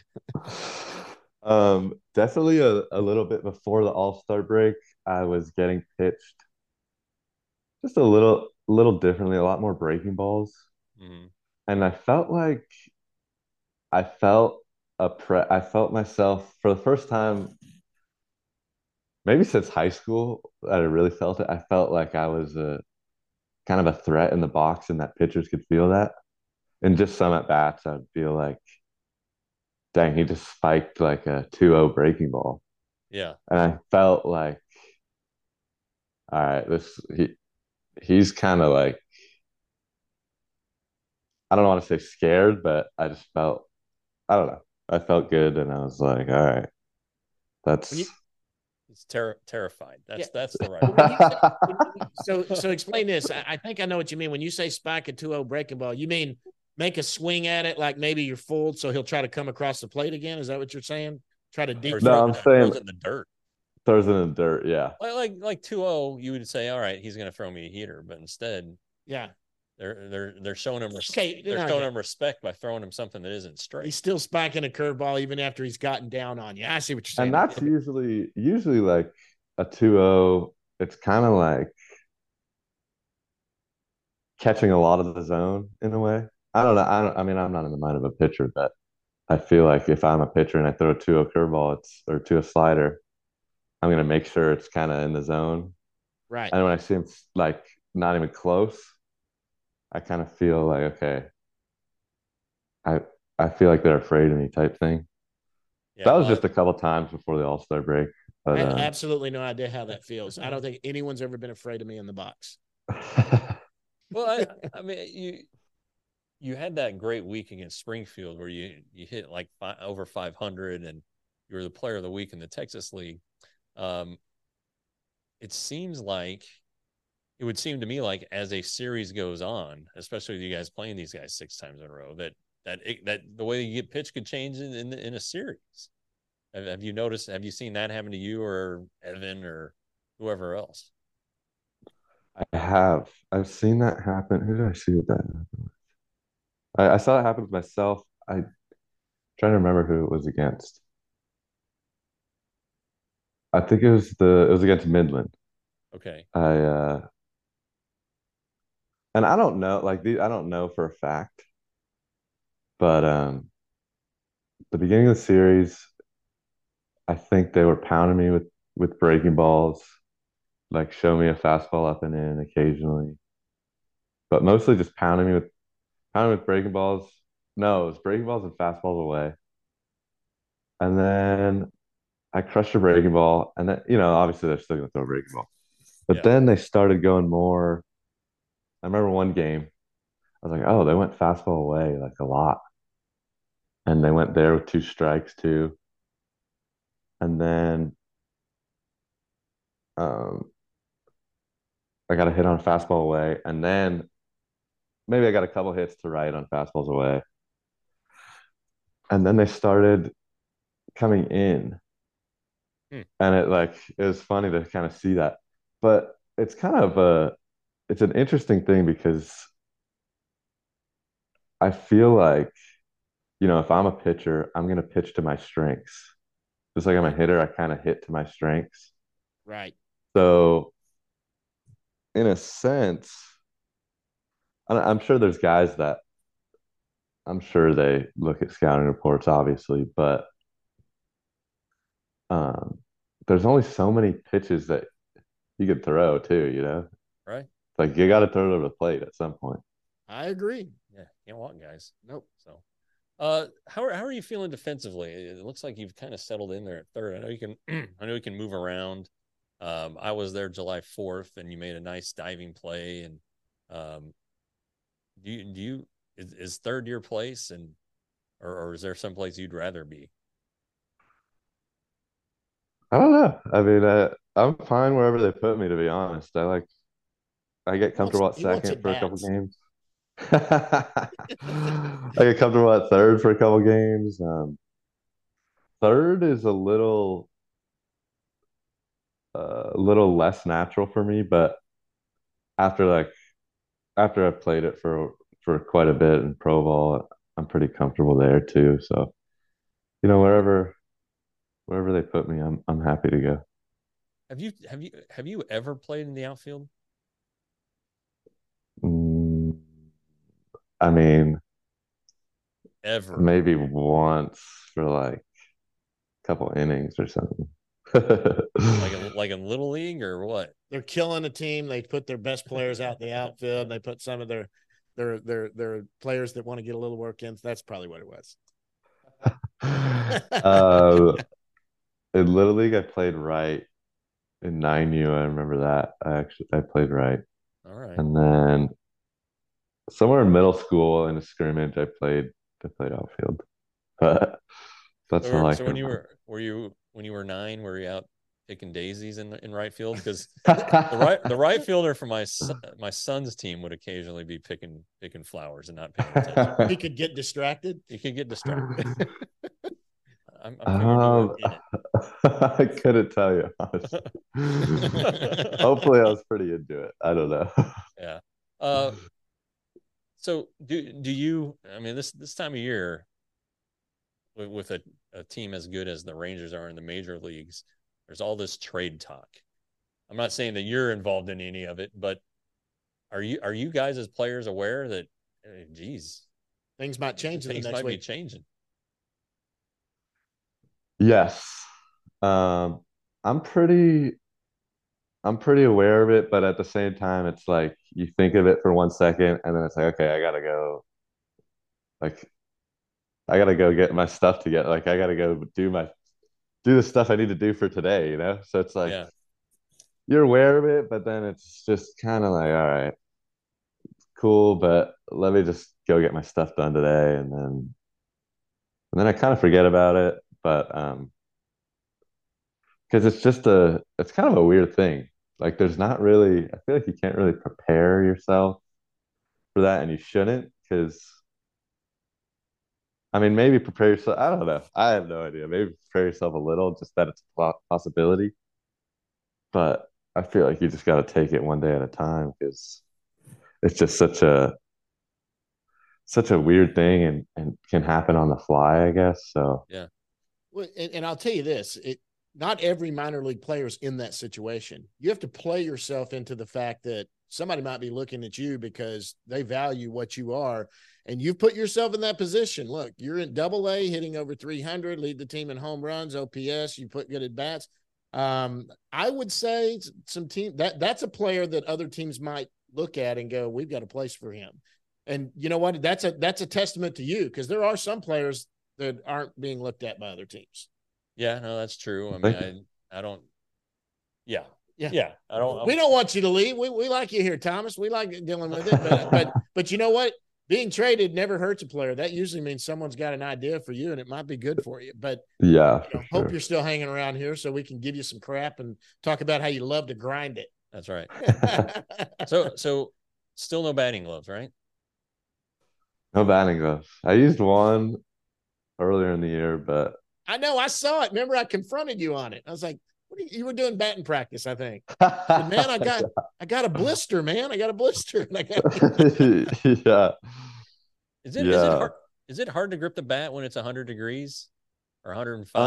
Definitely a little bit before the All-Star break, I was getting pitched just a little differently, a lot more breaking balls. Mm-hmm. And I felt like I felt myself for the first time, maybe since high school, that I really felt it. I felt like I was a kind of a threat in the box, and that pitchers could feel that. And just some at bats, I'd feel like, dang, he just spiked like a 2-0 breaking ball. Yeah. And I felt like, all right, he's kind of like, I don't want to say scared, but I just felt, I don't know. I felt good, and I was like, all right, that's. He's terrified. That's the right. So explain this. I think I know what you mean when you say spike a 2-0 breaking ball. You mean make a swing at it like maybe you're fooled, so he'll try to come across the plate again. Is that what you're saying? Try to deep. No, I'm saying throws it in the dirt. Throws it in the dirt, yeah. Like 2-0, you would say, all right, he's going to throw me a heater, but instead, yeah, They're showing him Okay, they're showing him respect by throwing him something that isn't straight. He's still spiking a curveball even after he's gotten down on you. I see what you're saying. And that's usually like a 2-0. It's kind of like catching a lot of the zone in a way. I don't know. I mean, I'm not in the mind of a pitcher, but I feel like if I'm a pitcher and I throw a 2-0 curveball, or 2-0 slider, I'm going to make sure it's kind of in the zone. Right. And when I see him like not even close, I kind of feel like, okay, I feel like they're afraid of me type thing. Yeah, that was just a couple times before the All-Star break. But, I have absolutely no idea how that feels. I don't think anyone's ever been afraid of me in the box. Well, I mean, you had that great week against Springfield where you hit like over 500 and you were the player of the week in the Texas League. It would seem to me like as a series goes on, especially with you guys playing these guys 6 times in a row, that the way you get pitched could change in a series. Have you noticed? Have you seen that happen to you or Evan or whoever else? I have. I've seen that happen. Who did I see with that happen with? I saw it happen with myself. I'm trying to remember who it was against. I think it was against Midland. Okay. And I don't know, I don't know for a fact, but the beginning of the series, I think they were pounding me with breaking balls, like show me a fastball up and in occasionally, but mostly just pounding with breaking balls. No, it was breaking balls and fastballs away. And then I crushed a breaking ball, and then obviously they're still gonna throw a breaking ball, but then they started going more. I remember one game, I was like, oh, they went fastball away like a lot, and they went there with 2 strikes too, and then I got a hit on a fastball away, and then maybe I got a couple hits to right on fastballs away, and then they started coming in. And it was funny to kind of see that. But it's kind of it's an interesting thing because I feel like, if I'm a pitcher, I'm going to pitch to my strengths. Just like I'm a hitter, I kind of hit to my strengths. Right. So in a sense, I'm sure there's guys that I'm sure they look at scouting reports, obviously, but there's only so many pitches that you could throw too, Right. Like you got to throw it over the plate at some point. I agree. Yeah, can't walk, guys. Nope. So, how are you feeling defensively? It looks like you've kind of settled in there at third. I know you can move around. I was there July 4th, and you made a nice diving play. And is third your place, and or is there some place you'd rather be? I don't know. I mean, I'm fine wherever they put me, to be honest. I get comfortable at second for a couple games. I get comfortable at third for a couple games. Third is a little less natural for me, but after I've played it for quite a bit in pro ball, I'm pretty comfortable there too. So, wherever they put me, I'm happy to go. Have you ever played in the outfield? I mean, ever? Maybe once for like a couple innings or something. like in Little League or what? They're killing a team. They put their best players out in the outfield. And they put some of their players that want to get a little work in. That's probably what it was. In Little League, I played right in 9U. I remember that. I played right. All right. And then somewhere in middle school in a scrimmage, I played outfield. But that's all I can. So when you were 9, were you out picking daisies in right field? Because the right fielder for my son's team would occasionally be picking flowers and not paying attention. He could get distracted. I couldn't tell you, honestly. Hopefully I was pretty into it. I don't know. Yeah. So do you? I mean, this time of year, with a team as good as the Rangers are in the major leagues, there's all this trade talk. I'm not saying that you're involved in any of it, but are you guys as players aware that, geez, things might change in the things next might week? be changing? Yes. I'm pretty aware of it, but at the same time, it's like you think of it for 1 second and then it's like, okay, I gotta go. Like, I gotta go get my stuff together. Like, I gotta go do the stuff I need to do for today, you know? So it's like Yeah. you're aware of it, but then it's just kind of like, all right, cool, but let me just go get my stuff done today, and then I kind of forget about it. But because it's kind of a weird thing. Like, there's not really, I feel like you can't really prepare yourself for that, and you shouldn't, because I mean, maybe prepare yourself. I don't know. I have no idea. Maybe prepare yourself a little, just that it's a possibility. But I feel like you just got to take it one day at a time, because it's just such a weird thing, and can happen on the fly, I guess. So Yeah. Well, and I'll tell you this: not every minor league player is in that situation. You have to play yourself into the fact that somebody might be looking at you because they value what you are, and you've put yourself in that position. Look, you're in Double-A, hitting over 300, lead the team in home runs, OPS. You put good at bats. I would say some team that's a player that other teams might look at and go, "We've got a place for him." And you know what? That's a testament to you, because there are some players that aren't being looked at by other teams. Yeah, no, that's true. I Thank mean, I don't. Yeah, Yeah. yeah. I don't. We don't want you to leave. We like you here, Thomas. We like dealing with it. But you know what? Being traded never hurts a player. That usually means someone's got an idea for you, and it might be good for you. But yeah, you know, hope you're still hanging around here so we can give you some crap and talk about how you love to grind it. That's right. So still no batting gloves, right? No batting gloves. I used one earlier in the year, but I know, I saw it. Remember, I confronted you on it. I was like, you were doing batting practice, I think. But man, I got a blister, man. I got a blister. yeah. Is it hard to grip the bat when it's 100 degrees or 105?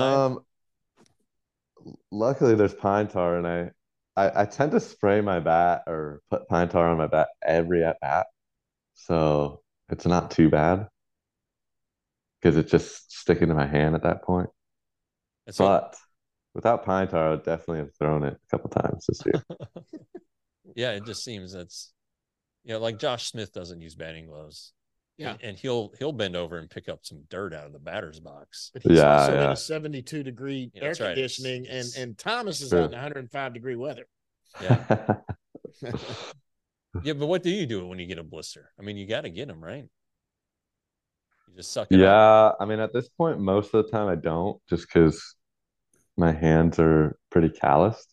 Luckily there's pine tar, and I tend to spray my bat or put pine tar on my bat every at bat. So it's not too bad, because it's just sticking to my hand at that point. So, But without pine tar, I would definitely have thrown it a couple times this year. yeah, it just seems that's, like Josh Smith doesn't use batting gloves. Yeah. And he'll bend over and pick up some dirt out of the batter's box. But he's also in a 72-degree air conditioning, right. and Thomas is out in 105-degree weather. Yeah. Yeah, but what do you do when you get a blister? I mean, you got to get them, right? You just suck it up. Yeah, I mean, at this point, most of the time I don't, just because my hands are pretty calloused.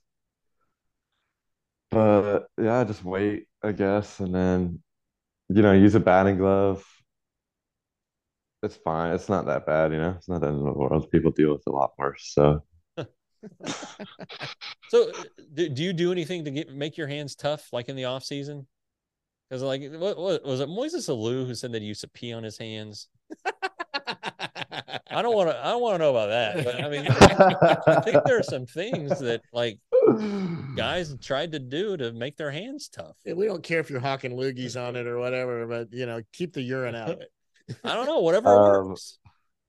But yeah, just wait, I guess, and then use a batting glove. It's fine. It's not that bad, It's not the end of the world. People deal with it a lot worse. So, So do you do anything to make your hands tough, like in the off season? Because what was it, Moises Alou who said that he used to pee on his hands? I don't want to know about that. But I mean, I think there are some things that guys tried to do to make their hands tough. Yeah, we don't care if you're hawking loogies on it or whatever, but keep the urine out of it. I don't know, whatever works.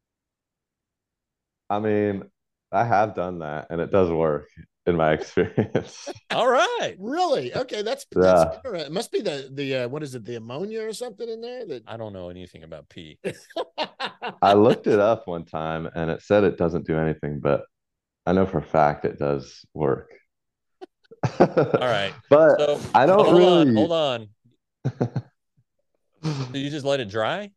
I mean, I have done that, and it does work in my experience. All right. Really? Okay, that's it must be the what is it, the ammonia or something in there? I don't know anything about pee. I looked it up one time, and it said it doesn't do anything, but I know for a fact it does work. All right. But so, I don't really hold on. Do you just let it dry?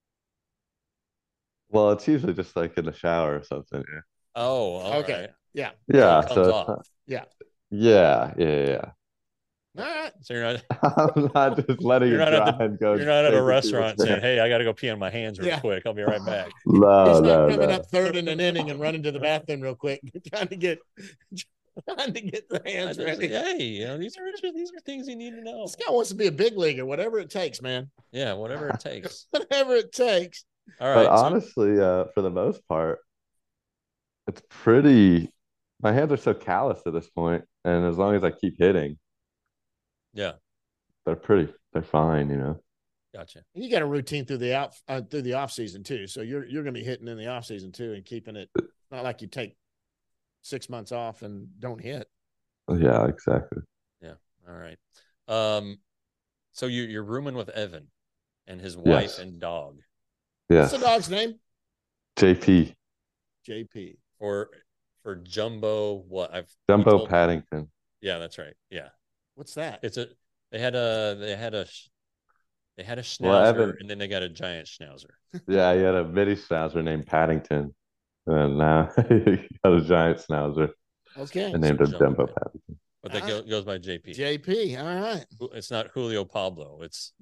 Well, it's usually just like in the shower or something. Yeah. Oh, okay. Right. Yeah. Yeah. It comes off. Yeah. Yeah. All right. So you're not. I'm not just letting it dry and go. You're not at a restaurant saying, "Hey, I got to go pee on my hands real quick. I'll be right back." He's not coming up third in an inning and running to the bathroom real quick, trying to get Trying to get the hands ready. Hey, these are things you need to know. This guy wants to be a big leaguer, whatever it takes, man. Yeah, whatever it takes. Whatever it takes. All right. But honestly, for the most part, it's pretty. My hands are so calloused at this point, and as long as I keep hitting, yeah, they're fine, gotcha. You got a routine through the off season too, so you're going to be hitting in the off season too, and keeping it. Not like you take 6 months off and don't hit. Yeah, exactly. Yeah. All right. So you're rooming with Evan and his wife and dog. Yes. What's the dog's name? JP. JP. For Jumbo, Jumbo Paddington. Yeah, that's right. Yeah. What's that? They had a schnauzer, Well, Evan, and then they got a giant schnauzer. Yeah, he had a mini schnauzer named Paddington, and now he got a giant schnauzer. Okay. And named him Jumbo Paddington. But that goes by JP. JP. All right. It's not Julio Pablo. It's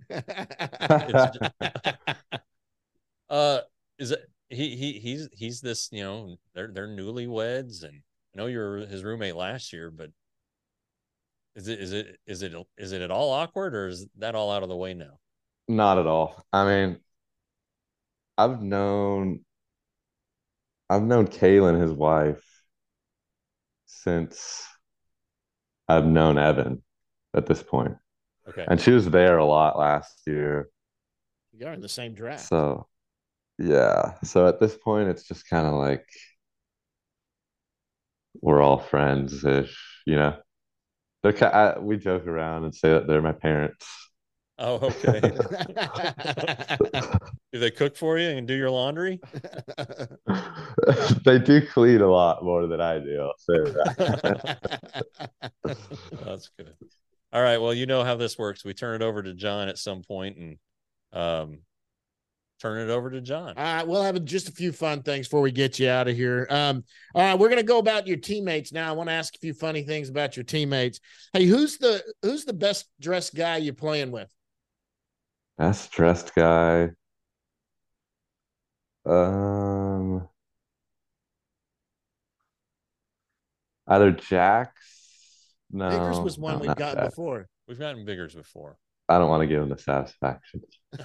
is it he's this, they're newlyweds, and I know you're his roommate last year, but is it at all awkward, or is that all out of the way now? Not at all. I mean, I've known Kaylin, his wife, since I've known Evan at this point. Okay. And she was there a lot last year. You are in the same draft. So, yeah. So at this point, it's just kind of like we're all friends-ish, we joke around and say that they're my parents. Oh, okay. Do they cook for you and do your laundry? They do clean a lot more than I do, I'll say that. That's good. All right. Well, you know how this works. We turn it over to John at some point, and turn it over to John. All right, we'll have just a few fun things before we get you out of here. All right, we're going to go about your teammates now. I want to ask a few funny things about your teammates. Hey, who's the best dressed guy you're playing with? Best dressed guy. Either Jax. No, Biggers was one we've gotten before. We've gotten Biggers before. I don't want to give him the satisfaction.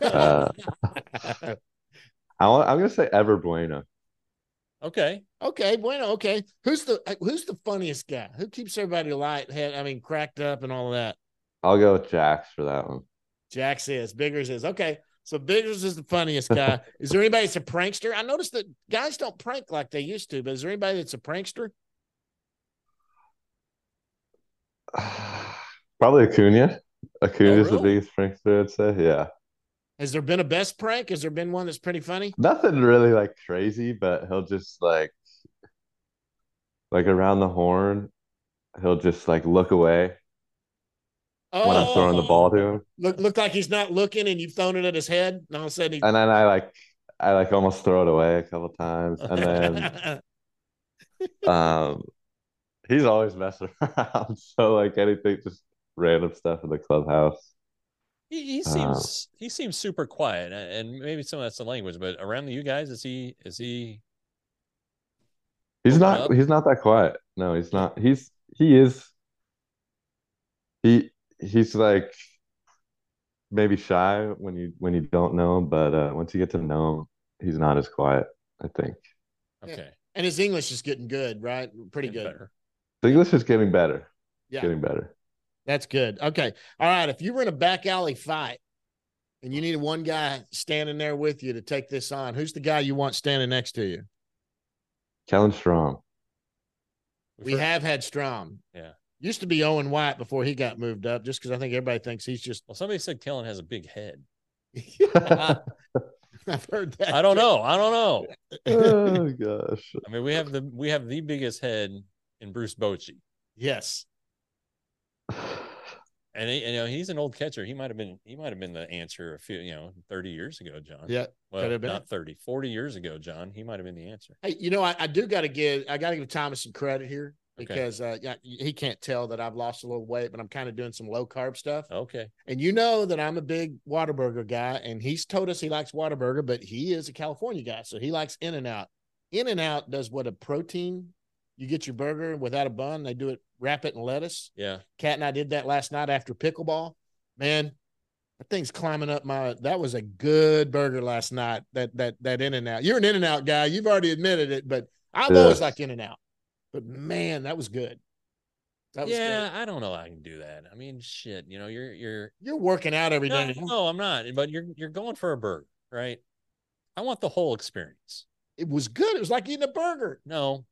I'm going to say Ever Bueno. Okay, Bueno. Okay, who's the funniest guy? Who keeps everybody cracked up and all of that? I'll go with Jax for that one. Jax is. Biggers is. Okay, so Biggers is the funniest guy. Is there anybody that's a prankster? I noticed that guys don't prank like they used to, but is there anybody that's a prankster? Probably Acuna. Acuna's really? the biggest prankster, I'd say. Yeah. Has there been a best prank? Has there been one that's pretty funny? Nothing really like crazy, but he'll just like around the horn, he'll just like look away when I'm throwing the ball to him. Look like he's not looking, and you've thrown it at his head, and all of a sudden and then I almost throw it away a couple times, and then he's always messing around. So like anything, just random stuff in the clubhouse. He seems super quiet, and maybe some of that's the language, but around you guys, is he? He's not that quiet. No, he's not. He's like maybe shy when you don't know him, but once you get to know him, he's not as quiet, I think. Okay. Yeah. And his English is getting good, right? Pretty Getting good. better. The English is getting better. Yeah. Getting better. That's good. Okay. All right. If you were in a back alley fight and you needed one guy standing there with you to take this on, who's the guy you want standing next to you? Kellen Strom. We have had Strom. Yeah. Used to be Owen White before he got moved up, just because I think everybody thinks he's just. Well, somebody said Kellen has a big head. I've heard that. I don't know. Oh gosh. I mean, we have the biggest head in Bruce Bochy. Yes. And he's an old catcher. He might have been the answer a few 30 years ago, John. Yeah. Well, not 30, 40 years ago, John. He might have been the answer. Hey, I got to give Thomas some credit here because he can't tell that I've lost a little weight, but I'm kind of doing some low carb stuff. Okay. And you know that I'm a big Whataburger guy, and he's told us he likes Whataburger, but he is a California guy, so he likes In-N-Out. In-N-Out does what a protein You get your burger without a bun. They do it, wrap it in lettuce. Yeah. Kat and I did that last night after pickleball. Man, that thing's climbing up my. That was a good burger last night. That In-N-Out. You're an In-N-Out guy. You've already admitted it, but I've always liked In-N-Out. But man, that was good. That was Yeah, good. I don't know how I can do that. I mean, shit, you're You're working out every day. no, I'm not. But you're going for a burger, right? I want the whole experience. It was good. It was like eating a burger. No.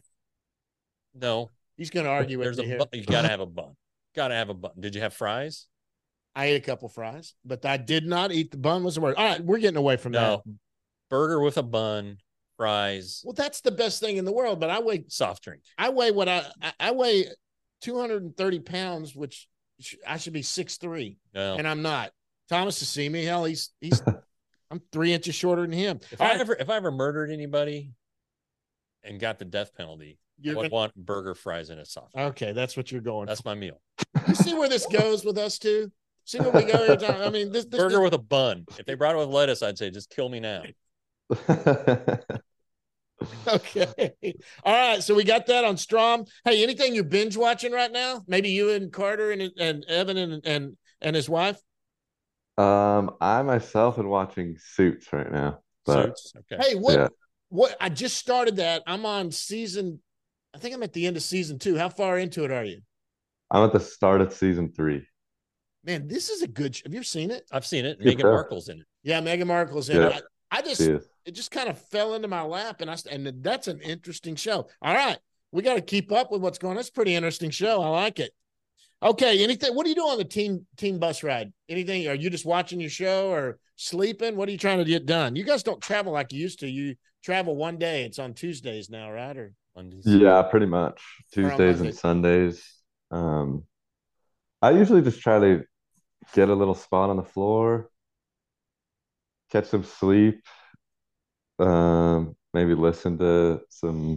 He's going to argue with me here. You got to have a bun. Got to have a bun. Did you have fries? I ate a couple fries, but I did not eat the bun. Was the word? All right, we're getting away from that. Burger with a bun, fries. Well, that's the best thing in the world. But I weigh soft drink. I weigh what I weigh 230 pounds, which I should be 6'3", and I'm not. Thomas to see me, hell, he's I'm 3 inches shorter than him. If I ever murdered anybody and got the death penalty, I would want burger, fries, and a soft drink. Okay, that's what you're going. That's my meal. You see where this goes with us too? See where we go here, Tom? I mean, this burger with a bun. If they brought it with lettuce, I'd say just kill me now. Okay. All right. So we got that on Strom. Hey, anything you're binge watching right now? Maybe you and Carter and Evan and his wife? I myself am watching Suits right now. But, Suits. Okay. Hey, what I just started that. I'm on I think I'm at the end of season 2. How far into it are you? I'm at the start of season 3. Man, this is a good have you ever seen it? I've seen it. Meghan Markle's in it. Yeah, Meghan Markle's in it. It just kind of fell into my lap, and that's an interesting show. All right, we got to keep up with what's going on. It's a pretty interesting show. I like it. Okay, anything? What do you do on the team bus ride? Anything? Are you just watching your show or sleeping? What are you trying to get done? You guys don't travel like you used to. You travel one day. It's on Tuesdays now, right? Or Mondays? Yeah, pretty much Tuesdays and Sundays. I usually just try to get a little spot on the floor, catch some sleep, maybe listen to some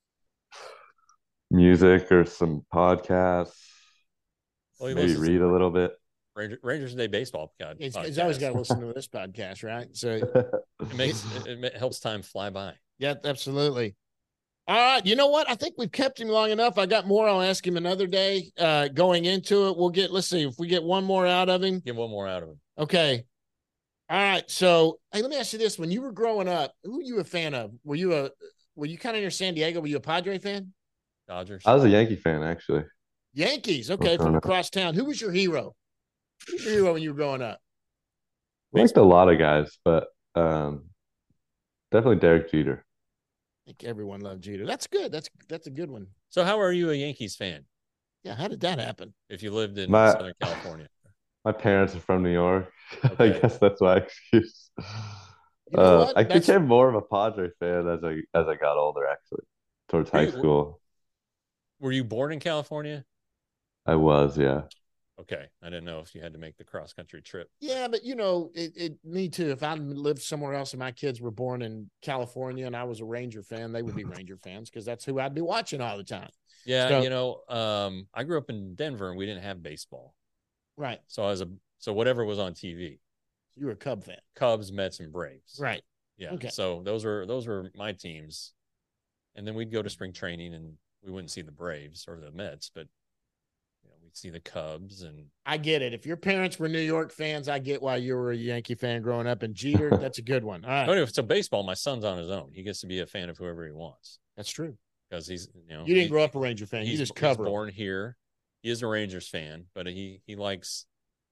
music or some podcasts, maybe read a little bit. Rangers Today baseball podcast. He's always got to listen to this podcast, right? So it helps time fly by. Yeah, absolutely. All right. You know what? I think we've kept him long enough. I got more. I'll ask him another day. Going into it, let's see if we get one more out of him. Get one more out of him. Okay. All right. So, hey, let me ask you this. When you were growing up, who were you a fan of? Were you kind of near San Diego? Were you a Padre fan? Dodgers. I was a Yankee fan, actually. Yankees. Okay. From across town. Who was your hero? Who was your hero when you were growing up? I liked a lot of guys, but definitely Derek Jeter. I think everyone loved Jeter. That's good. That's a good one. So how are you a Yankees fan? Yeah, how did that happen? If you lived in Southern California. My parents are from New York. Okay. I guess that's my excuse. I became more of a Padre fan as I got older, actually, towards high school. Were you born in California? I was, yeah. Okay. I didn't know if you had to make the cross-country trip. Yeah, but, me too. If I lived somewhere else and my kids were born in California and I was a Ranger fan, they would be Ranger fans because that's who I'd be watching all the time. Yeah, I grew up in Denver and we didn't have baseball. Right. So whatever was on TV. You were a Cub fan. Cubs, Mets, and Braves. Right. Yeah. Okay. So those were my teams. And then we'd go to spring training and we wouldn't see the Braves or the Mets, but we'd see the Cubs. And I get it. If your parents were New York fans, I get why you were a Yankee fan growing up. And Jeter, that's a good one. All right. Anyway, so baseball, my son's on his own. He gets to be a fan of whoever he wants. That's true. Because he's, you didn't grow up a Ranger fan. You just cover. He's born here. He is a Rangers fan, but he likes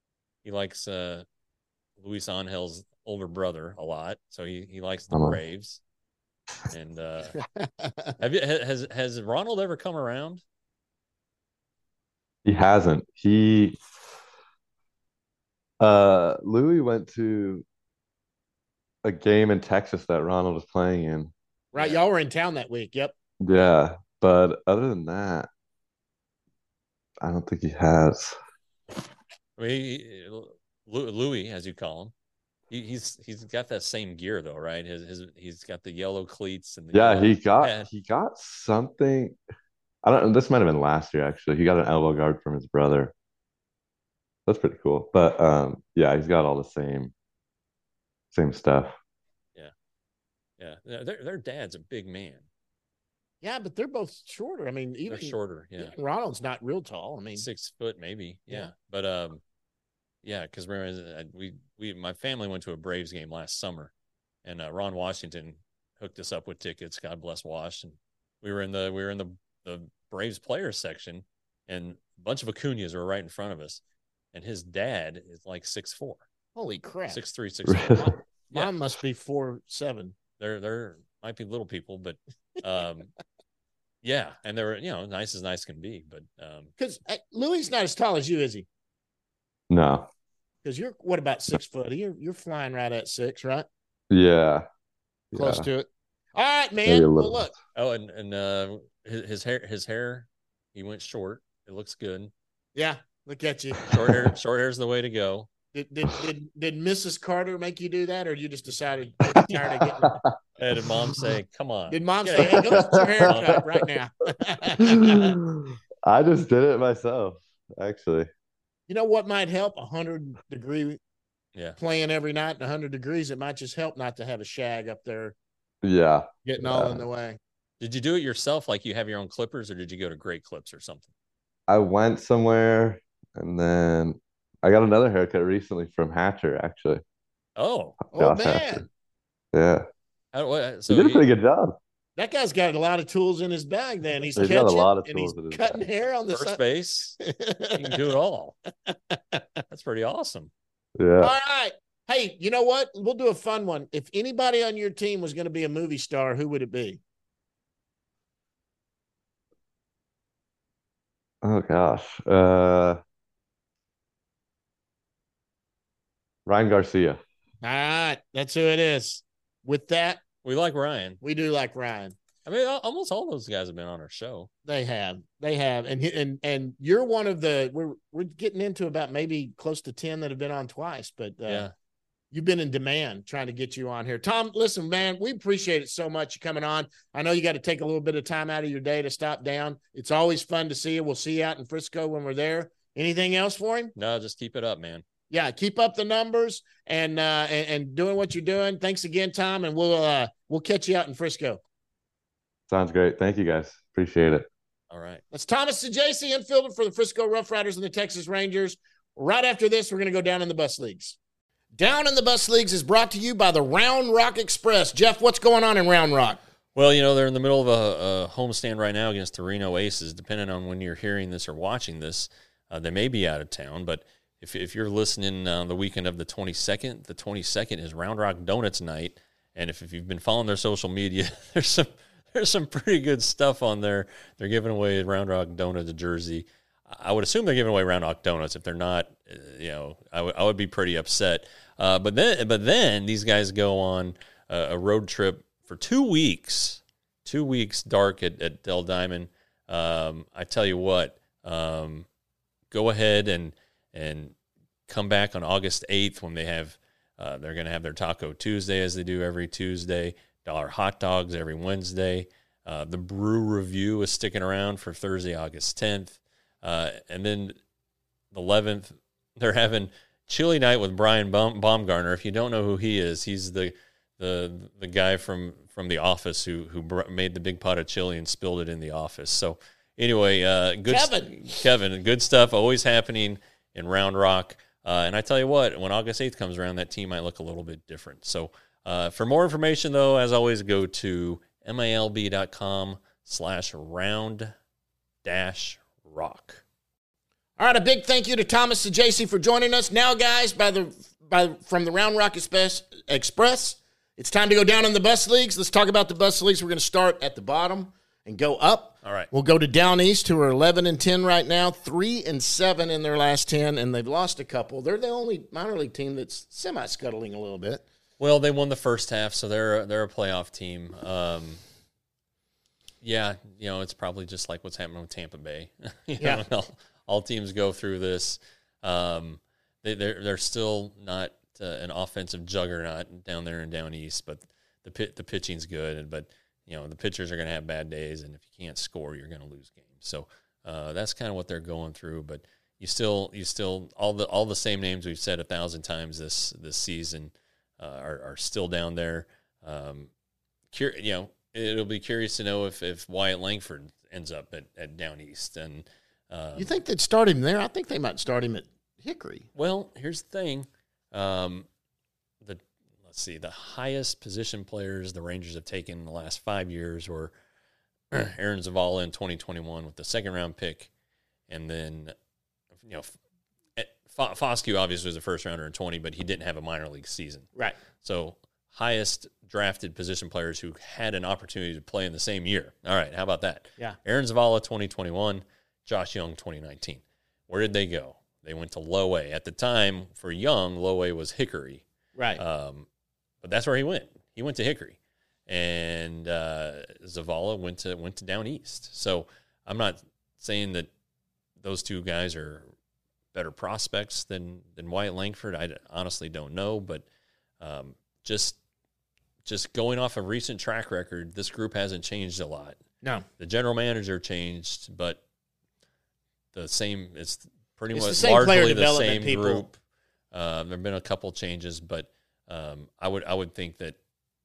Luis Angel's older brother a lot. So he likes the Braves. And has Ronald ever come around? He hasn't. Louis went to a game in Texas that Ronald was playing in. Right, y'all were in town that week. Yep. Yeah, but other than that, I don't think he has. I mean, Louis, as you call him, he's got that same gear though, right? He's got the yellow cleats and he got something. I don't. This might have been last year actually. He got an elbow guard from his brother. That's pretty cool. But yeah, he's got all the same stuff. Yeah. Their dad's a big man. Yeah, but they're both shorter. I mean, even They're shorter. Yeah. Ronald's not real tall. I mean, 6 foot maybe. Yeah. Yeah. But yeah, because my family went to a Braves game last summer, and Ron Washington hooked us up with tickets. God bless Wash, and we were in the Braves players section, and a bunch of Acuñas were right in front of us, and his dad is like 6'4", holy crap. 6'3", 6'4". Yeah. Mom must be 4'7". There might be little people, but yeah, and they were nice as nice can be, but because Louis not as tall as you, is he? No. Because you're what about 6 foot? You're flying right at 6, right? Yeah. Close to it. All right, Maybe man. a Well, little. look. oh, and his hair, he went short. It looks good. Yeah, look at you. Short hair's the way to go. Did Mrs. Carter make you do that, or you just decided tired of getting? And did Mom say, "Come on"? Did Mom say, "Hey, go get your haircut right now"? I just did it myself, actually. You know what might help? 100-degree playing every night, 100 degrees. It might just help not to have a shag up there. Yeah, getting all in the way. Did you do it yourself? Like you have your own clippers, or did you go to Great Clips or something? I went somewhere, and then I got another haircut recently from Hatcher, actually. Oh, man. Hatcher. Yeah. So he did a pretty good job. That guy's got a lot of tools in his bag. Then he's got a lot of tools in his cutting bag. hair on the first base. You can do it all. That's pretty awesome. Yeah. All right. Hey, you know what? We'll do a fun one. If anybody on your team was going to be a movie star, who would it be? Oh gosh. Ryan Garcia. All right. That's who it is. With that, we like Ryan. We do like Ryan. I mean, almost all those guys have been on our show. They have, and you're one of the. We're getting into about maybe close to 10 that have been on twice, but yeah, you've been in demand trying to get you on here. Tom, listen, man, we appreciate it so much you coming on. I know you got to take a little bit of time out of your day to stop down. It's always fun to see you. We'll see you out in Frisco when we're there. Anything else for him? No, just keep it up, man. Yeah, keep up the numbers and doing what you're doing. Thanks again, Tom, and we'll catch you out in Frisco. Sounds great. Thank you, guys. Appreciate it. All right. That's Thomas Saggese, infielder for the Frisco Rough Riders and the Texas Rangers. Right after this, we're going to go down in the bus leagues. Down in the Bus Leagues is brought to you by the Round Rock Express. Jeff, what's going on in Round Rock? Well, they're in the middle of a homestand right now against the Reno Aces. Depending on when you're hearing this or watching this, they may be out of town. But if you're listening the weekend of the 22nd is Round Rock Donuts night. And if you've been following their social media, there's some pretty good stuff on there. They're giving away Round Rock Donuts jersey. I would assume they're giving away Round Rock Donuts. If they're not, I would be pretty upset. But then these guys go on a road trip for 2 weeks. 2 weeks dark at Del Diamond. I tell you what, go ahead and come back on August 8th when they have they're going to have their Taco Tuesday as they do every Tuesday. $1 hot dogs every Wednesday. The Brew Review is sticking around for Thursday, August 10th. And then the 11th, they're having Chili Night with Brian Baumgartner. If you don't know who he is, he's the guy from The Office who made the big pot of chili and spilled it in the office. So anyway, Kevin, good stuff always happening in Round Rock. And I tell you what, when August 8th comes around, that team might look a little bit different. So for more information, though, as always, go to milb.com/round-rock. All right, a big thank you to Thomas Saggese for joining us. Now, guys, from the Round Rock Express, it's time to go down in the bus leagues. Let's talk about the bus leagues. We're going to start at the bottom and go up. All right. We'll go to Down East, who are 11-10 right now, 3-7 in their last 10, and they've lost a couple. They're the only minor league team that's semi-scuttling a little bit. Well, they won the first half, so they're a playoff team. Yeah, it's probably just like what's happening with Tampa Bay. All teams go through this. They're still not an offensive juggernaut down there in Down East, but the pitching's good. But the pitchers are going to have bad days, and if you can't score, you're going to lose games. So that's kind of what they're going through. But you still all the same names we've said 1,000 times this season are still down there. it'll be curious to know if Wyatt Langford ends up at Down East. And you think they'd start him there? I think they might start him at Hickory. well, here's the thing. Let's see, the highest position players the Rangers have taken in the last 5 years were Aaron Zavala in 2021 with the second-round pick, and then, Foscue obviously was a first-rounder in 20, but he didn't have a minor league season. Right. So highest drafted position players who had an opportunity to play in the same year. All right, how about that? Yeah. Aaron Zavala, 2021, Josh Young, 2019. Where did they go? They went to Low A. At the time, for Young, Low A was Hickory. Right. But that's where he went. He went to Hickory. And Zavala went to Down East. So I'm not saying that those two guys are better prospects than Wyatt Langford. I honestly don't know, but just going off a recent track record, this group hasn't changed a lot. No. The general manager changed, but it's pretty It's much the same player largely the development same people. group. There have been a couple changes, but I would think that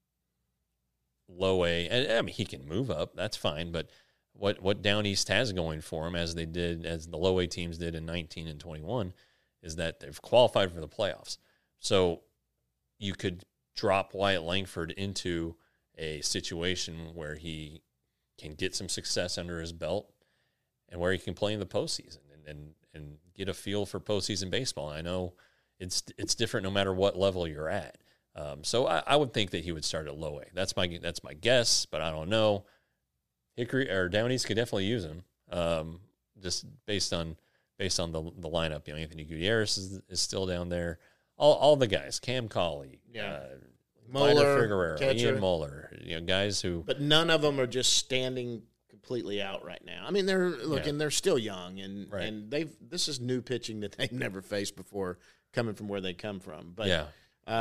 Low A, and I mean he can move up, that's fine, but what Down East has going for him, as the Low A teams did in 19 and 21, is that they've qualified for the playoffs. So you could drop Wyatt Langford into a situation where he can get some success under his belt and where he can play in the postseason and get a feel for postseason baseball. And I know it's different no matter what level you're at. So I would think that he would start at Low A. That's my guess, but I don't know. Hickory or Down East could definitely use him, just based on the lineup. Anthony Gutierrez is still down there. All the guys, Cam Cauley, Moeller, Figueroa, catcher. Ian Moeller, guys who. But none of them are just standing completely out right now. I mean, they're still young, and Right. and this is new pitching that they've never faced before, coming from where they come from. But Yeah.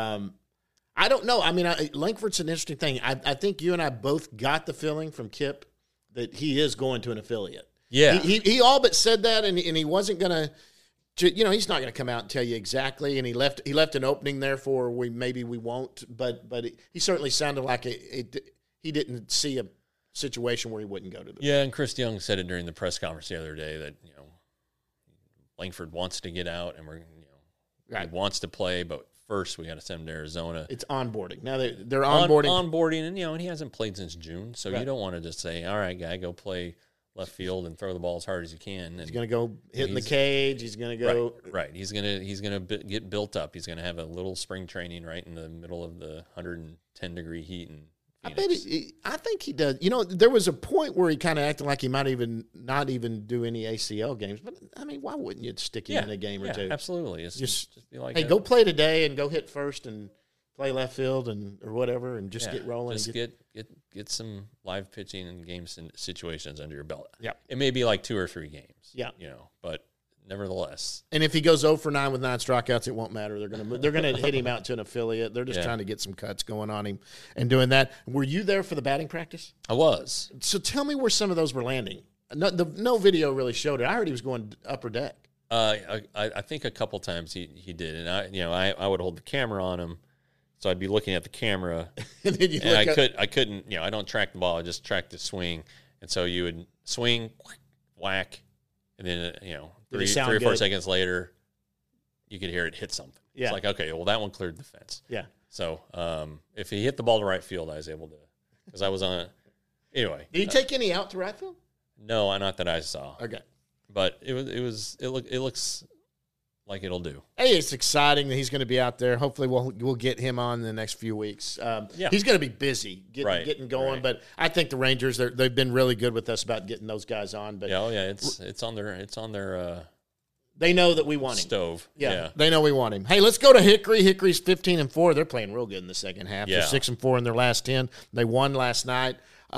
I don't know. I mean, Langford's an interesting thing. I think you and I both got the feeling from Kip that he is going to an affiliate. Yeah. He all but said that, and he wasn't going to. He's not going to come out and tell you exactly, and he left an opening there for maybe we won't, but he certainly sounded like he didn't see a situation where he wouldn't go to the. Yeah, and Chris Young said it during the press conference the other day that Langford wants to get out, and he wants to play, but first we got to send him to Arizona. It's onboarding. Now they're onboarding. Onboarding, and he hasn't played since June, so you don't want to just say, all right, guy, go play left field and throw the ball as hard as you can. And he's going to go hit in the cage. He's going to go right. He's gonna get built up. He's going to have a little spring training right in the middle of the 110-degree heat in Phoenix. I think he does. There was a point where he kind of acted like he might not even do any ACL games. But I mean, why wouldn't you stick him in a game or two? Absolutely. It's just be like, hey, go play today and go hit first and play left field or whatever, and just get rolling. Just get some live pitching and games and situations under your belt. Yeah, it may be like 2 or 3 games. Yeah, but nevertheless. And if he goes 0 for 9 with 9 strikeouts, it won't matter. They're gonna hit him out to an affiliate. They're just trying to get some cuts going on him and doing that. Were you there for the batting practice? I was. So tell me where some of those were landing. No video really showed it. I heard he was going upper deck. I think a couple times he did, and I would hold the camera on him. So I'd be looking at the camera, and I couldn't. I don't track the ball; I just track the swing. And so you would swing, whack, and then 3 or 4 seconds later, you could hear it hit something. Yeah. It's like, okay, well that one cleared the fence. Yeah. So if he hit the ball to right field, I was able to, because I was on it. Anyway, did he take any out to right field? No, not that I saw. Okay, but it looks like it'll do. Hey, it's exciting that he's going to be out there. Hopefully, we'll get him on in the next few weeks. He's going to be busy getting going. Right. But I think the Rangers they've been really good with us about getting those guys on. But it's on their. They know that we want him. Stove. Yeah, they know we want him. Hey, let's go to Hickory. Hickory's 15-4. They're playing real good in the second half. Yeah. They're 6-4 in their last 10. They won last night.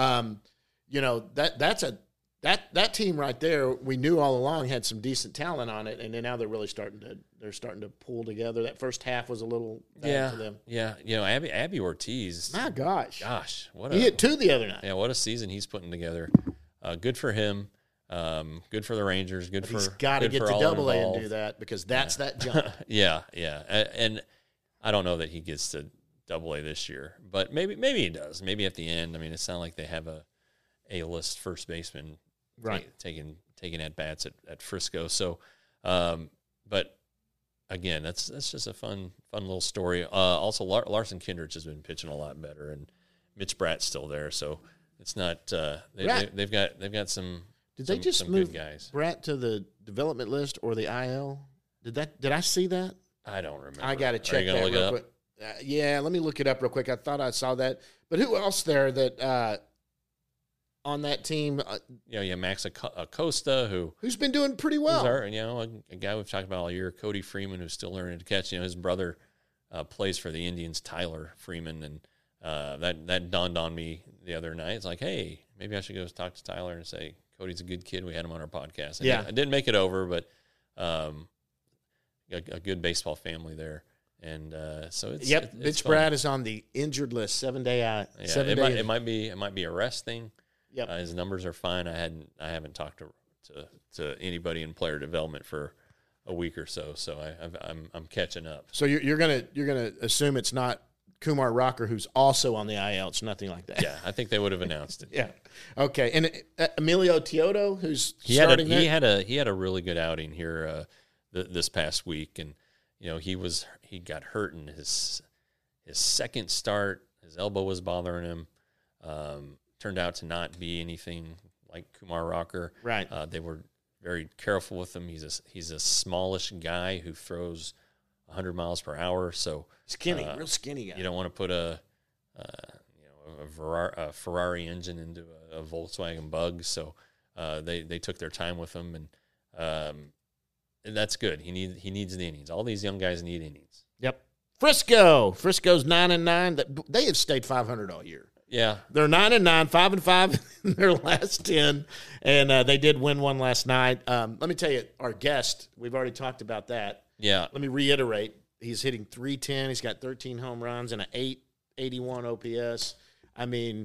That team right there, we knew all along had some decent talent on it, and then now they're really starting to pull together. That first half was a little bad for them. Yeah. Abby Ortiz. My gosh, he hit 2 the other night. Yeah, what a season he's putting together. Good for him. Good for the Rangers. He's got to get to Double A and do that, because that's that jump. Yeah, and I don't know that he gets to Double-A this year, but maybe he does. Maybe at the end. I mean, it's not like they have a A-list first baseman taking at bats at Frisco. So, but again, that's just a fun little story. Also, Larson Kindrich has been pitching a lot better, and Mitch Bratt's still there. So it's not they've got some. Did they just move good guys? Bratt to the development list or the IL? Did I see that? I don't remember. I got to check that look real quick. Yeah, let me look it up real quick. I thought I saw that. But who else there that on that team? Max Acosta, who's been doing pretty well. A guy we've talked about all year, Cody Freeman, who's still learning to catch. His brother plays for the Indians, Tyler Freeman, and that dawned on me the other night. It's like, hey, maybe I should go talk to Tyler and say, Cody's a good kid. We had him on our podcast. I didn't make it over, but a good baseball family there. And so it's Mitch Bratt is on the injured list, 7 day out. It might be a rest thing. Yep. His numbers are fine. I haven't talked to anybody in player development for a week or so, so I'm catching up. So you're gonna assume it's not Kumar Rocker, who's also on the IL. It's nothing like that. Yeah, I think they would have announced it. Yeah. Okay. And Emilio Teodo, who's starting he had a really good outing here this past week, and he got hurt in his second start. His elbow was bothering him. Turned out to not be anything like Kumar Rocker. Right. They were very careful with him. He's a smallish guy who throws 100 miles per hour. So skinny, real skinny guy. You don't want to put a Ferrari engine into a Volkswagen Bug. So they took their time with him, and that's good. He needs the innings. All these young guys need innings. Yep. Frisco's 9-9. They have stayed 500 all year. Yeah, they're 9-9, 5-5 in their last 10, and they did win one last night. Let me tell you, our guest, we've already talked about that. Yeah. Let me reiterate: he's hitting .310. He's got 13 home runs and an .881 OPS. I mean,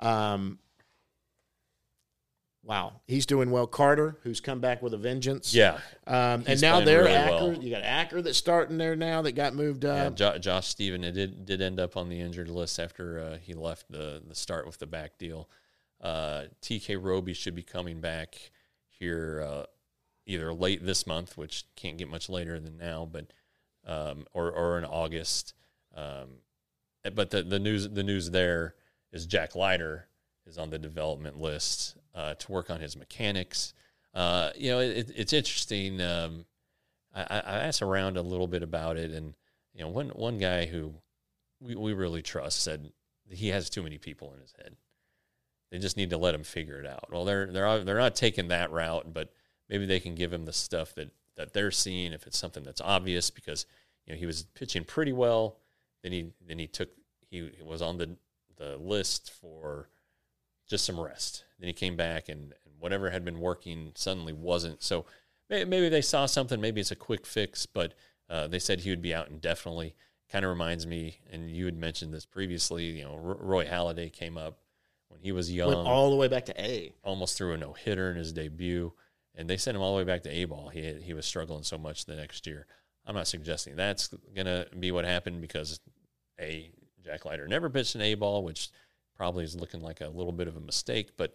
wow, he's doing well. Carter, who's come back with a vengeance. Yeah, and now they're really Acker. well. You got Acker that's starting there now that got moved up. Yeah, Josh Stephen did end up on the injured list after he left the start with the back deal. TK Roby should be coming back here either late this month, which can't get much later than now, but or in August. But the news there is Jack Leiter is on the development list to work on his mechanics. It's interesting. I asked around a little bit about it, and one guy who we really trust said he has too many people in his head. They just need to let him figure it out. Well, they're not taking that route, but maybe they can give him the stuff that they're seeing if it's something that's obvious, because he was pitching pretty well. Then he was on the list for just some rest. Then he came back, and whatever had been working suddenly wasn't. So maybe they saw something. Maybe it's a quick fix, but they said he would be out indefinitely. Kind of reminds me, and you had mentioned this previously, Roy Halladay came up when he was young. Went all the way back to A. Almost threw a no-hitter in his debut, and they sent him all the way back to A-ball. He was struggling so much the next year. I'm not suggesting that's going to be what happened, because, Jack Leiter never pitched an A-ball, which probably is looking like a little bit of a mistake, but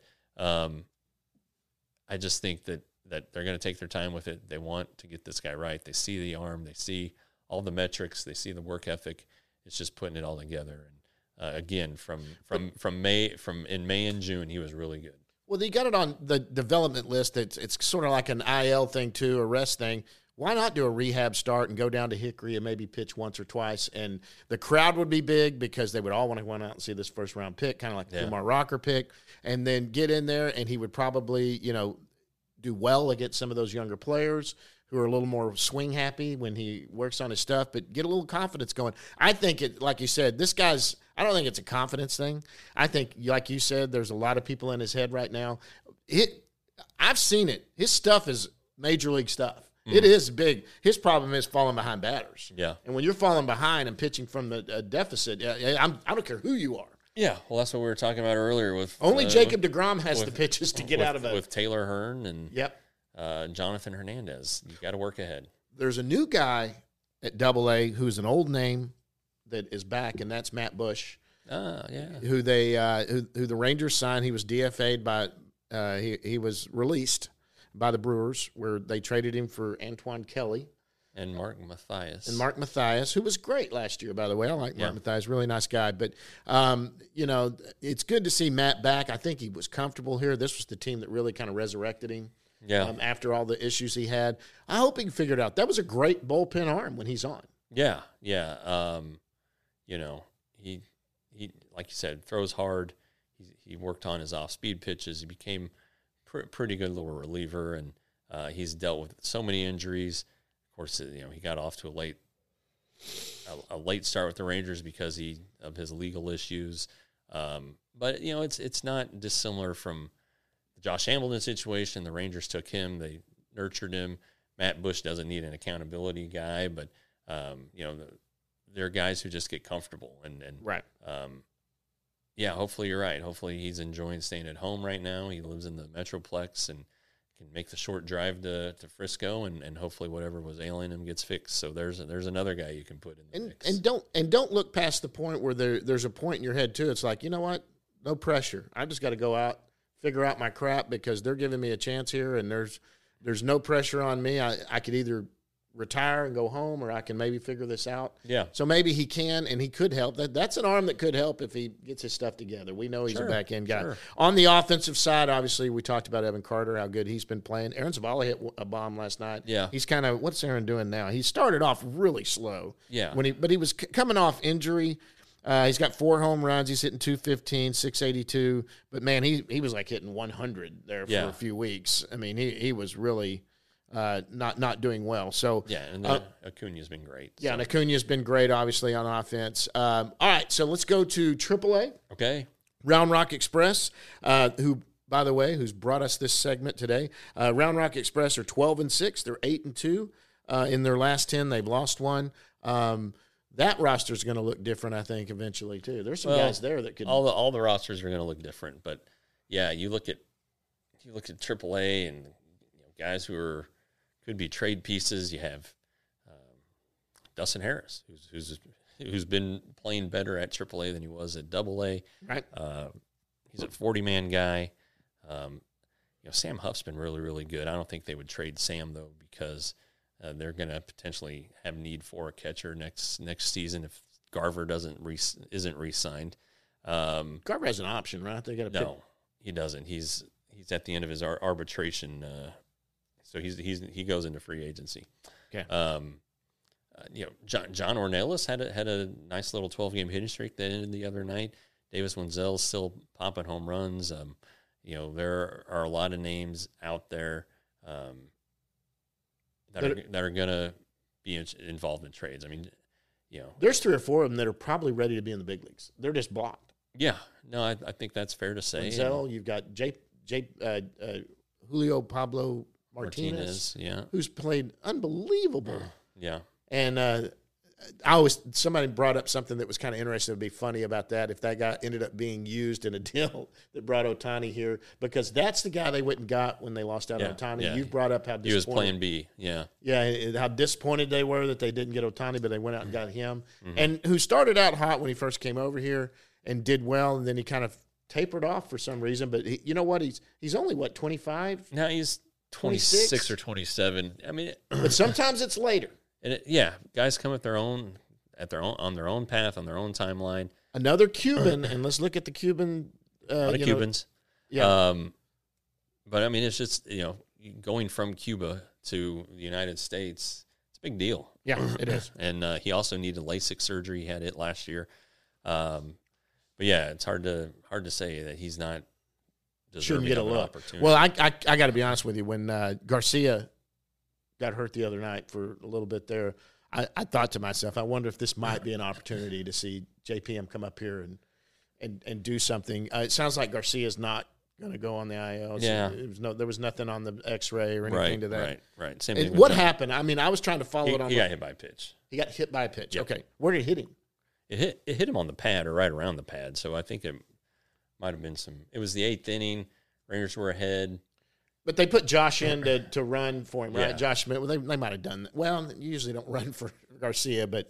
I just think that they're going to take their time with it. They want to get this guy right. They see the arm, they see all the metrics, they see the work ethic. It's just putting it all together. And again, from May and June, he was really good. Well, they got it on the development list. It's sort of like an IL thing too, a rest thing. Why not do a rehab start and go down to Hickory and maybe pitch once or twice? And the crowd would be big because they would all want to go out and see this first-round pick, kind of like the Kumar Rocker pick, and then get in there, and he would probably, do well against some of those younger players who are a little more swing-happy when he works on his stuff, but get a little confidence going. I think it, like you said, I don't think it's a confidence thing. I think, like you said, there's a lot of people in his head right now. I've seen it. His stuff is major league stuff. It is big. His problem is falling behind batters. Yeah. And when you're falling behind and pitching from the deficit, I don't care who you are. Yeah. Well, that's what we were talking about earlier with only Jacob deGrom has the pitches to get out of it. With Taylor Hearn and yep. Jonathan Hernandez. You got to work ahead. There's a new guy at Double-A who's an old name that is back, and that's Matt Bush, Yeah. who the Rangers signed. He was DFA'd by he was released by the Brewers, where they traded him for Antoine Kelly. And Mark Mathias. Who was great last year, by the way. I like Mark Mathias, really nice guy. But, it's good to see Matt back. I think he was comfortable here. This was the team that really kind of resurrected him after all the issues he had. I hope he can figure it out. That was a great bullpen arm when he's on. Yeah. He like you said, throws hard. He worked on his off-speed pitches. He became pretty good little reliever, and he's dealt with so many injuries. Of course, he got off to a late start with the Rangers because of his legal issues. But it's not dissimilar from the Josh Hamilton situation. The Rangers took him; they nurtured him. Matt Bush doesn't need an accountability guy, but there are guys who just get comfortable and right. Hopefully you're right. Hopefully he's enjoying staying at home right now. He lives in the Metroplex and can make the short drive to Frisco, and hopefully whatever was ailing him gets fixed. So there's another guy you can put in the mix. And don't look past the point where there's a point in your head too. It's like, you know what? No pressure. I just got to go out, figure out my crap because they're giving me a chance here, and there's no pressure on me. I could either retire and go home, or I can maybe figure this out. Yeah. So maybe he can, and he could help. That's an arm that could help if he gets his stuff together. We know he's a back-end guy. Sure. On the offensive side, obviously, we talked about Evan Carter, how good he's been playing. Aaron Zavala hit a bomb last night. Yeah. He's kind of, what's Aaron doing now? He started off really slow. Yeah. But he was coming off injury. He's got 4 home runs. He's hitting 215, 682. But, man, he was like hitting 100 there for a few weeks. I mean, he was really – not doing well. So and Acuna's been great. Yeah, and Acuna's been great, obviously, on offense. All right, so let's go to AAA. Okay. Round Rock Express, who, by the way, who's brought us this segment today. Round Rock Express are 12-6. They're 8-2 in their last 10. They've lost one. That roster is going to look different, I think, eventually too. There's some guys there that could. All the rosters are going to look different, but yeah, you look at AAA and guys who could be trade pieces. You have Dustin Harris, who's been playing better at AAA than he was at AA. Right. He's a 40-man guy. Sam Huff's been really, really good. I don't think they would trade Sam though because they're going to potentially have need for a catcher next season if Garver isn't re-signed. Garver has an option, right? They got to no, he doesn't. He's at the end of his arbitration. So he goes into free agency. Okay. John Ornelas had a nice little 12-game hitting streak that ended the other night. Davis Wenzel's still popping home runs. There are a lot of names out there that are going to be involved in trades. I mean, there's 3 or 4 of them that are probably ready to be in the big leagues. They're just blocked. Yeah. No, I think that's fair to say. Wenzel, you've got Julio Pablo Martinez, who's played unbelievable. Yeah. And somebody brought up something that was kind of interesting. It would be funny about that if that guy ended up being used in a deal that brought Ohtani here, because that's the guy they went and got when they lost out on Ohtani. Yeah. You've brought up how disappointed. He was playing B, yeah. Yeah, how disappointed they were that they didn't get Ohtani, but they went out and got him. Mm-hmm. And who started out hot when he first came over here and did well, and then he kind of tapered off for some reason. But you know what? He's only, 25? Now he's 26 or 27. I mean, but sometimes it's later. And guys come on their own path, on their own timeline. Another Cuban, and let's look at the Cuban. A lot of Cubans. Yeah. But I mean, it's just, going from Cuba to the United States, it's a big deal. Yeah, it is. And he also needed LASIK surgery. He had it last year. But yeah, it's hard to say that he's not shouldn't get a look. Opportunity. Well, I got to be honest with you. When Garcia got hurt the other night for a little bit there, I thought to myself, I wonder if this might be an opportunity to see JPM come up here and do something. It sounds like Garcia's not going to go on the IL. Yeah. There was nothing on the X-ray or anything to that. Right. Same thing. What happened? I mean, I was trying to follow it on. He got hit by a pitch. He got hit by a pitch. Yep. Okay. Where did it hit him? It hit him on the pad or right around the pad. So I think it might have been it was the 8th inning. Rangers were ahead. But they put Josh in to run for him, right? Yeah. Josh Smith. Well, they might have done that. Well, you usually don't run for Garcia, but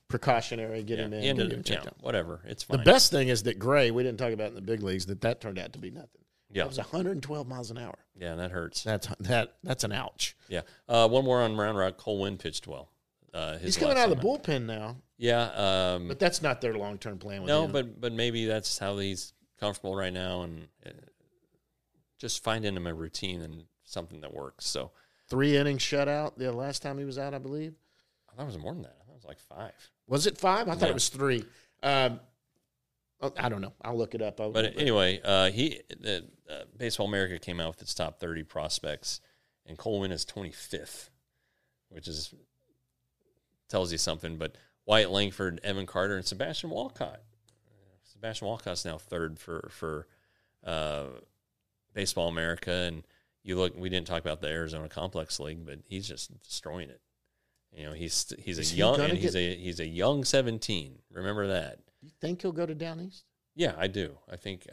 precautionary, get him in. Get him checked out. Whatever. It's fine. The best thing is that Gray, we didn't talk about in the big leagues, that turned out to be nothing. Yeah. That was 112 miles an hour. Yeah, that hurts. That's an ouch. Yeah. One more on Round Rock. Cole Winn pitched well. He's coming out of the bullpen now. Yeah. But that's not their long-term plan with him. but maybe that's how he's comfortable right now, and just finding him a routine and something that works. So 3 innings shutout the last time he was out, I believe. I thought it was more than that. I thought it was like 5. Was it 5? I thought it was 3. I don't know. I'll look it up. Anyway, Baseball America came out with its top 30 prospects, and Cole Winn is 25th, which tells you something. But Wyatt Langford, Evan Carter, and Sebastian Walcott. Sebastian Walcott's now 3rd for Baseball America, and you look. We didn't talk about the Arizona Complex League, but he's just destroying it. He's a young 17. Remember that. Do you think he'll go to Down East? Yeah, I do. I think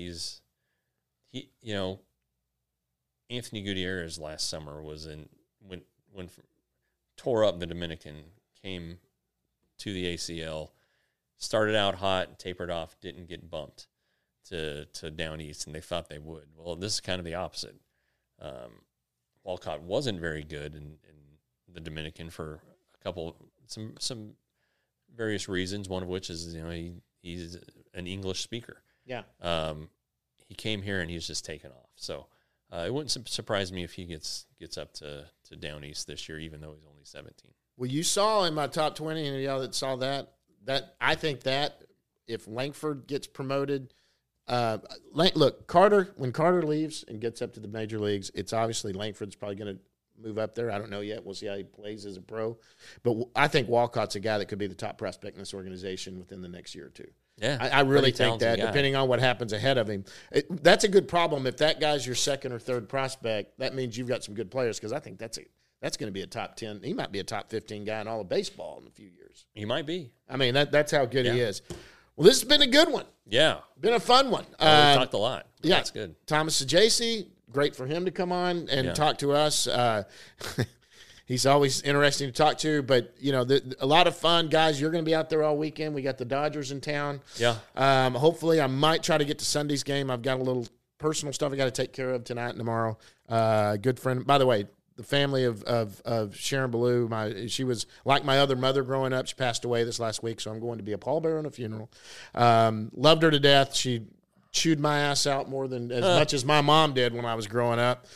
Anthony Gutierrez last summer was when tore up the Dominican, came to the ACL, started out hot, tapered off, didn't get bumped to Down East, and they thought they would. Well, this is kind of the opposite. Walcott wasn't very good in the Dominican for some various reasons, one of which is he's an English speaker. Yeah. He came here and he's just taken off. So it wouldn't surprise me if he gets up to Down East this year, even though he's only 17. Well, you saw in my top 20, and y'all that saw that I think that if Langford gets promoted, look, when Carter leaves and gets up to the major leagues, it's obviously Langford's probably going to move up there. I don't know yet. We'll see how he plays as a pro. But I think Walcott's a guy that could be the top prospect in this organization within the next year or two. Yeah, I really think that, guy. Depending on what happens ahead of him. That's a good problem. If that guy's your 2nd or 3rd prospect, that means you've got some good players, because I think that's going to be a top 10. He might be a top 15 guy in all of baseball in a few years. He might be. I mean, that's how good he is. Well, this has been a good one. Yeah. Been a fun one. We talked a lot. Yeah. That's good. Thomas Sajaci, great for him to come on and talk to us. He's always interesting to talk to, but, a lot of fun. Guys, you're going to be out there all weekend. We got the Dodgers in town. Yeah. Hopefully, I might try to get to Sunday's game. I've got a little personal stuff I got to take care of tonight and tomorrow. Good friend. By the way, the family of Sharon Ballou, she was like my other mother growing up. She passed away this last week, so I'm going to be a pallbearer on a funeral. Loved her to death. She chewed my ass out more than as much as my mom did when I was growing up.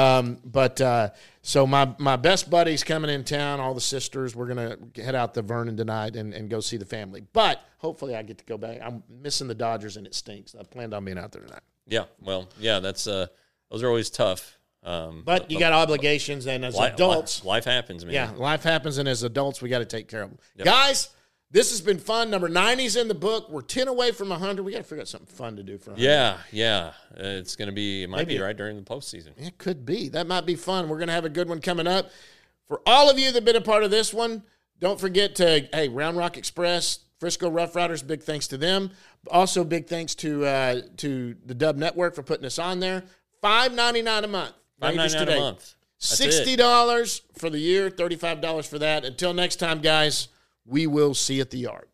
So my best buddy's coming in town, all the sisters. We're going to head out to Vernon tonight and go see the family. But hopefully I get to go back. I'm missing the Dodgers, and it stinks. I planned on being out there tonight. Yeah, well, yeah, that's those are always tough. But you got obligations, and as adults. Life happens, man. Yeah, life happens, and as adults, we got to take care of them. Yep. Guys, this has been fun. Number 90's in the book. We're 10 away from 100. We got to figure out something fun to do for 100. Yeah. It's going to be, might be right during the postseason. It could be. That might be fun. We're going to have a good one coming up. For all of you that have been a part of this one, don't forget to, Round Rock Express, Frisco Rough Riders, big thanks to them. Also, big thanks to the Dub Network for putting us on there. $5.99 a month. $5.99 a month. That's $60 for the year, $35 for that. Until next time, guys, we will see you at the yard.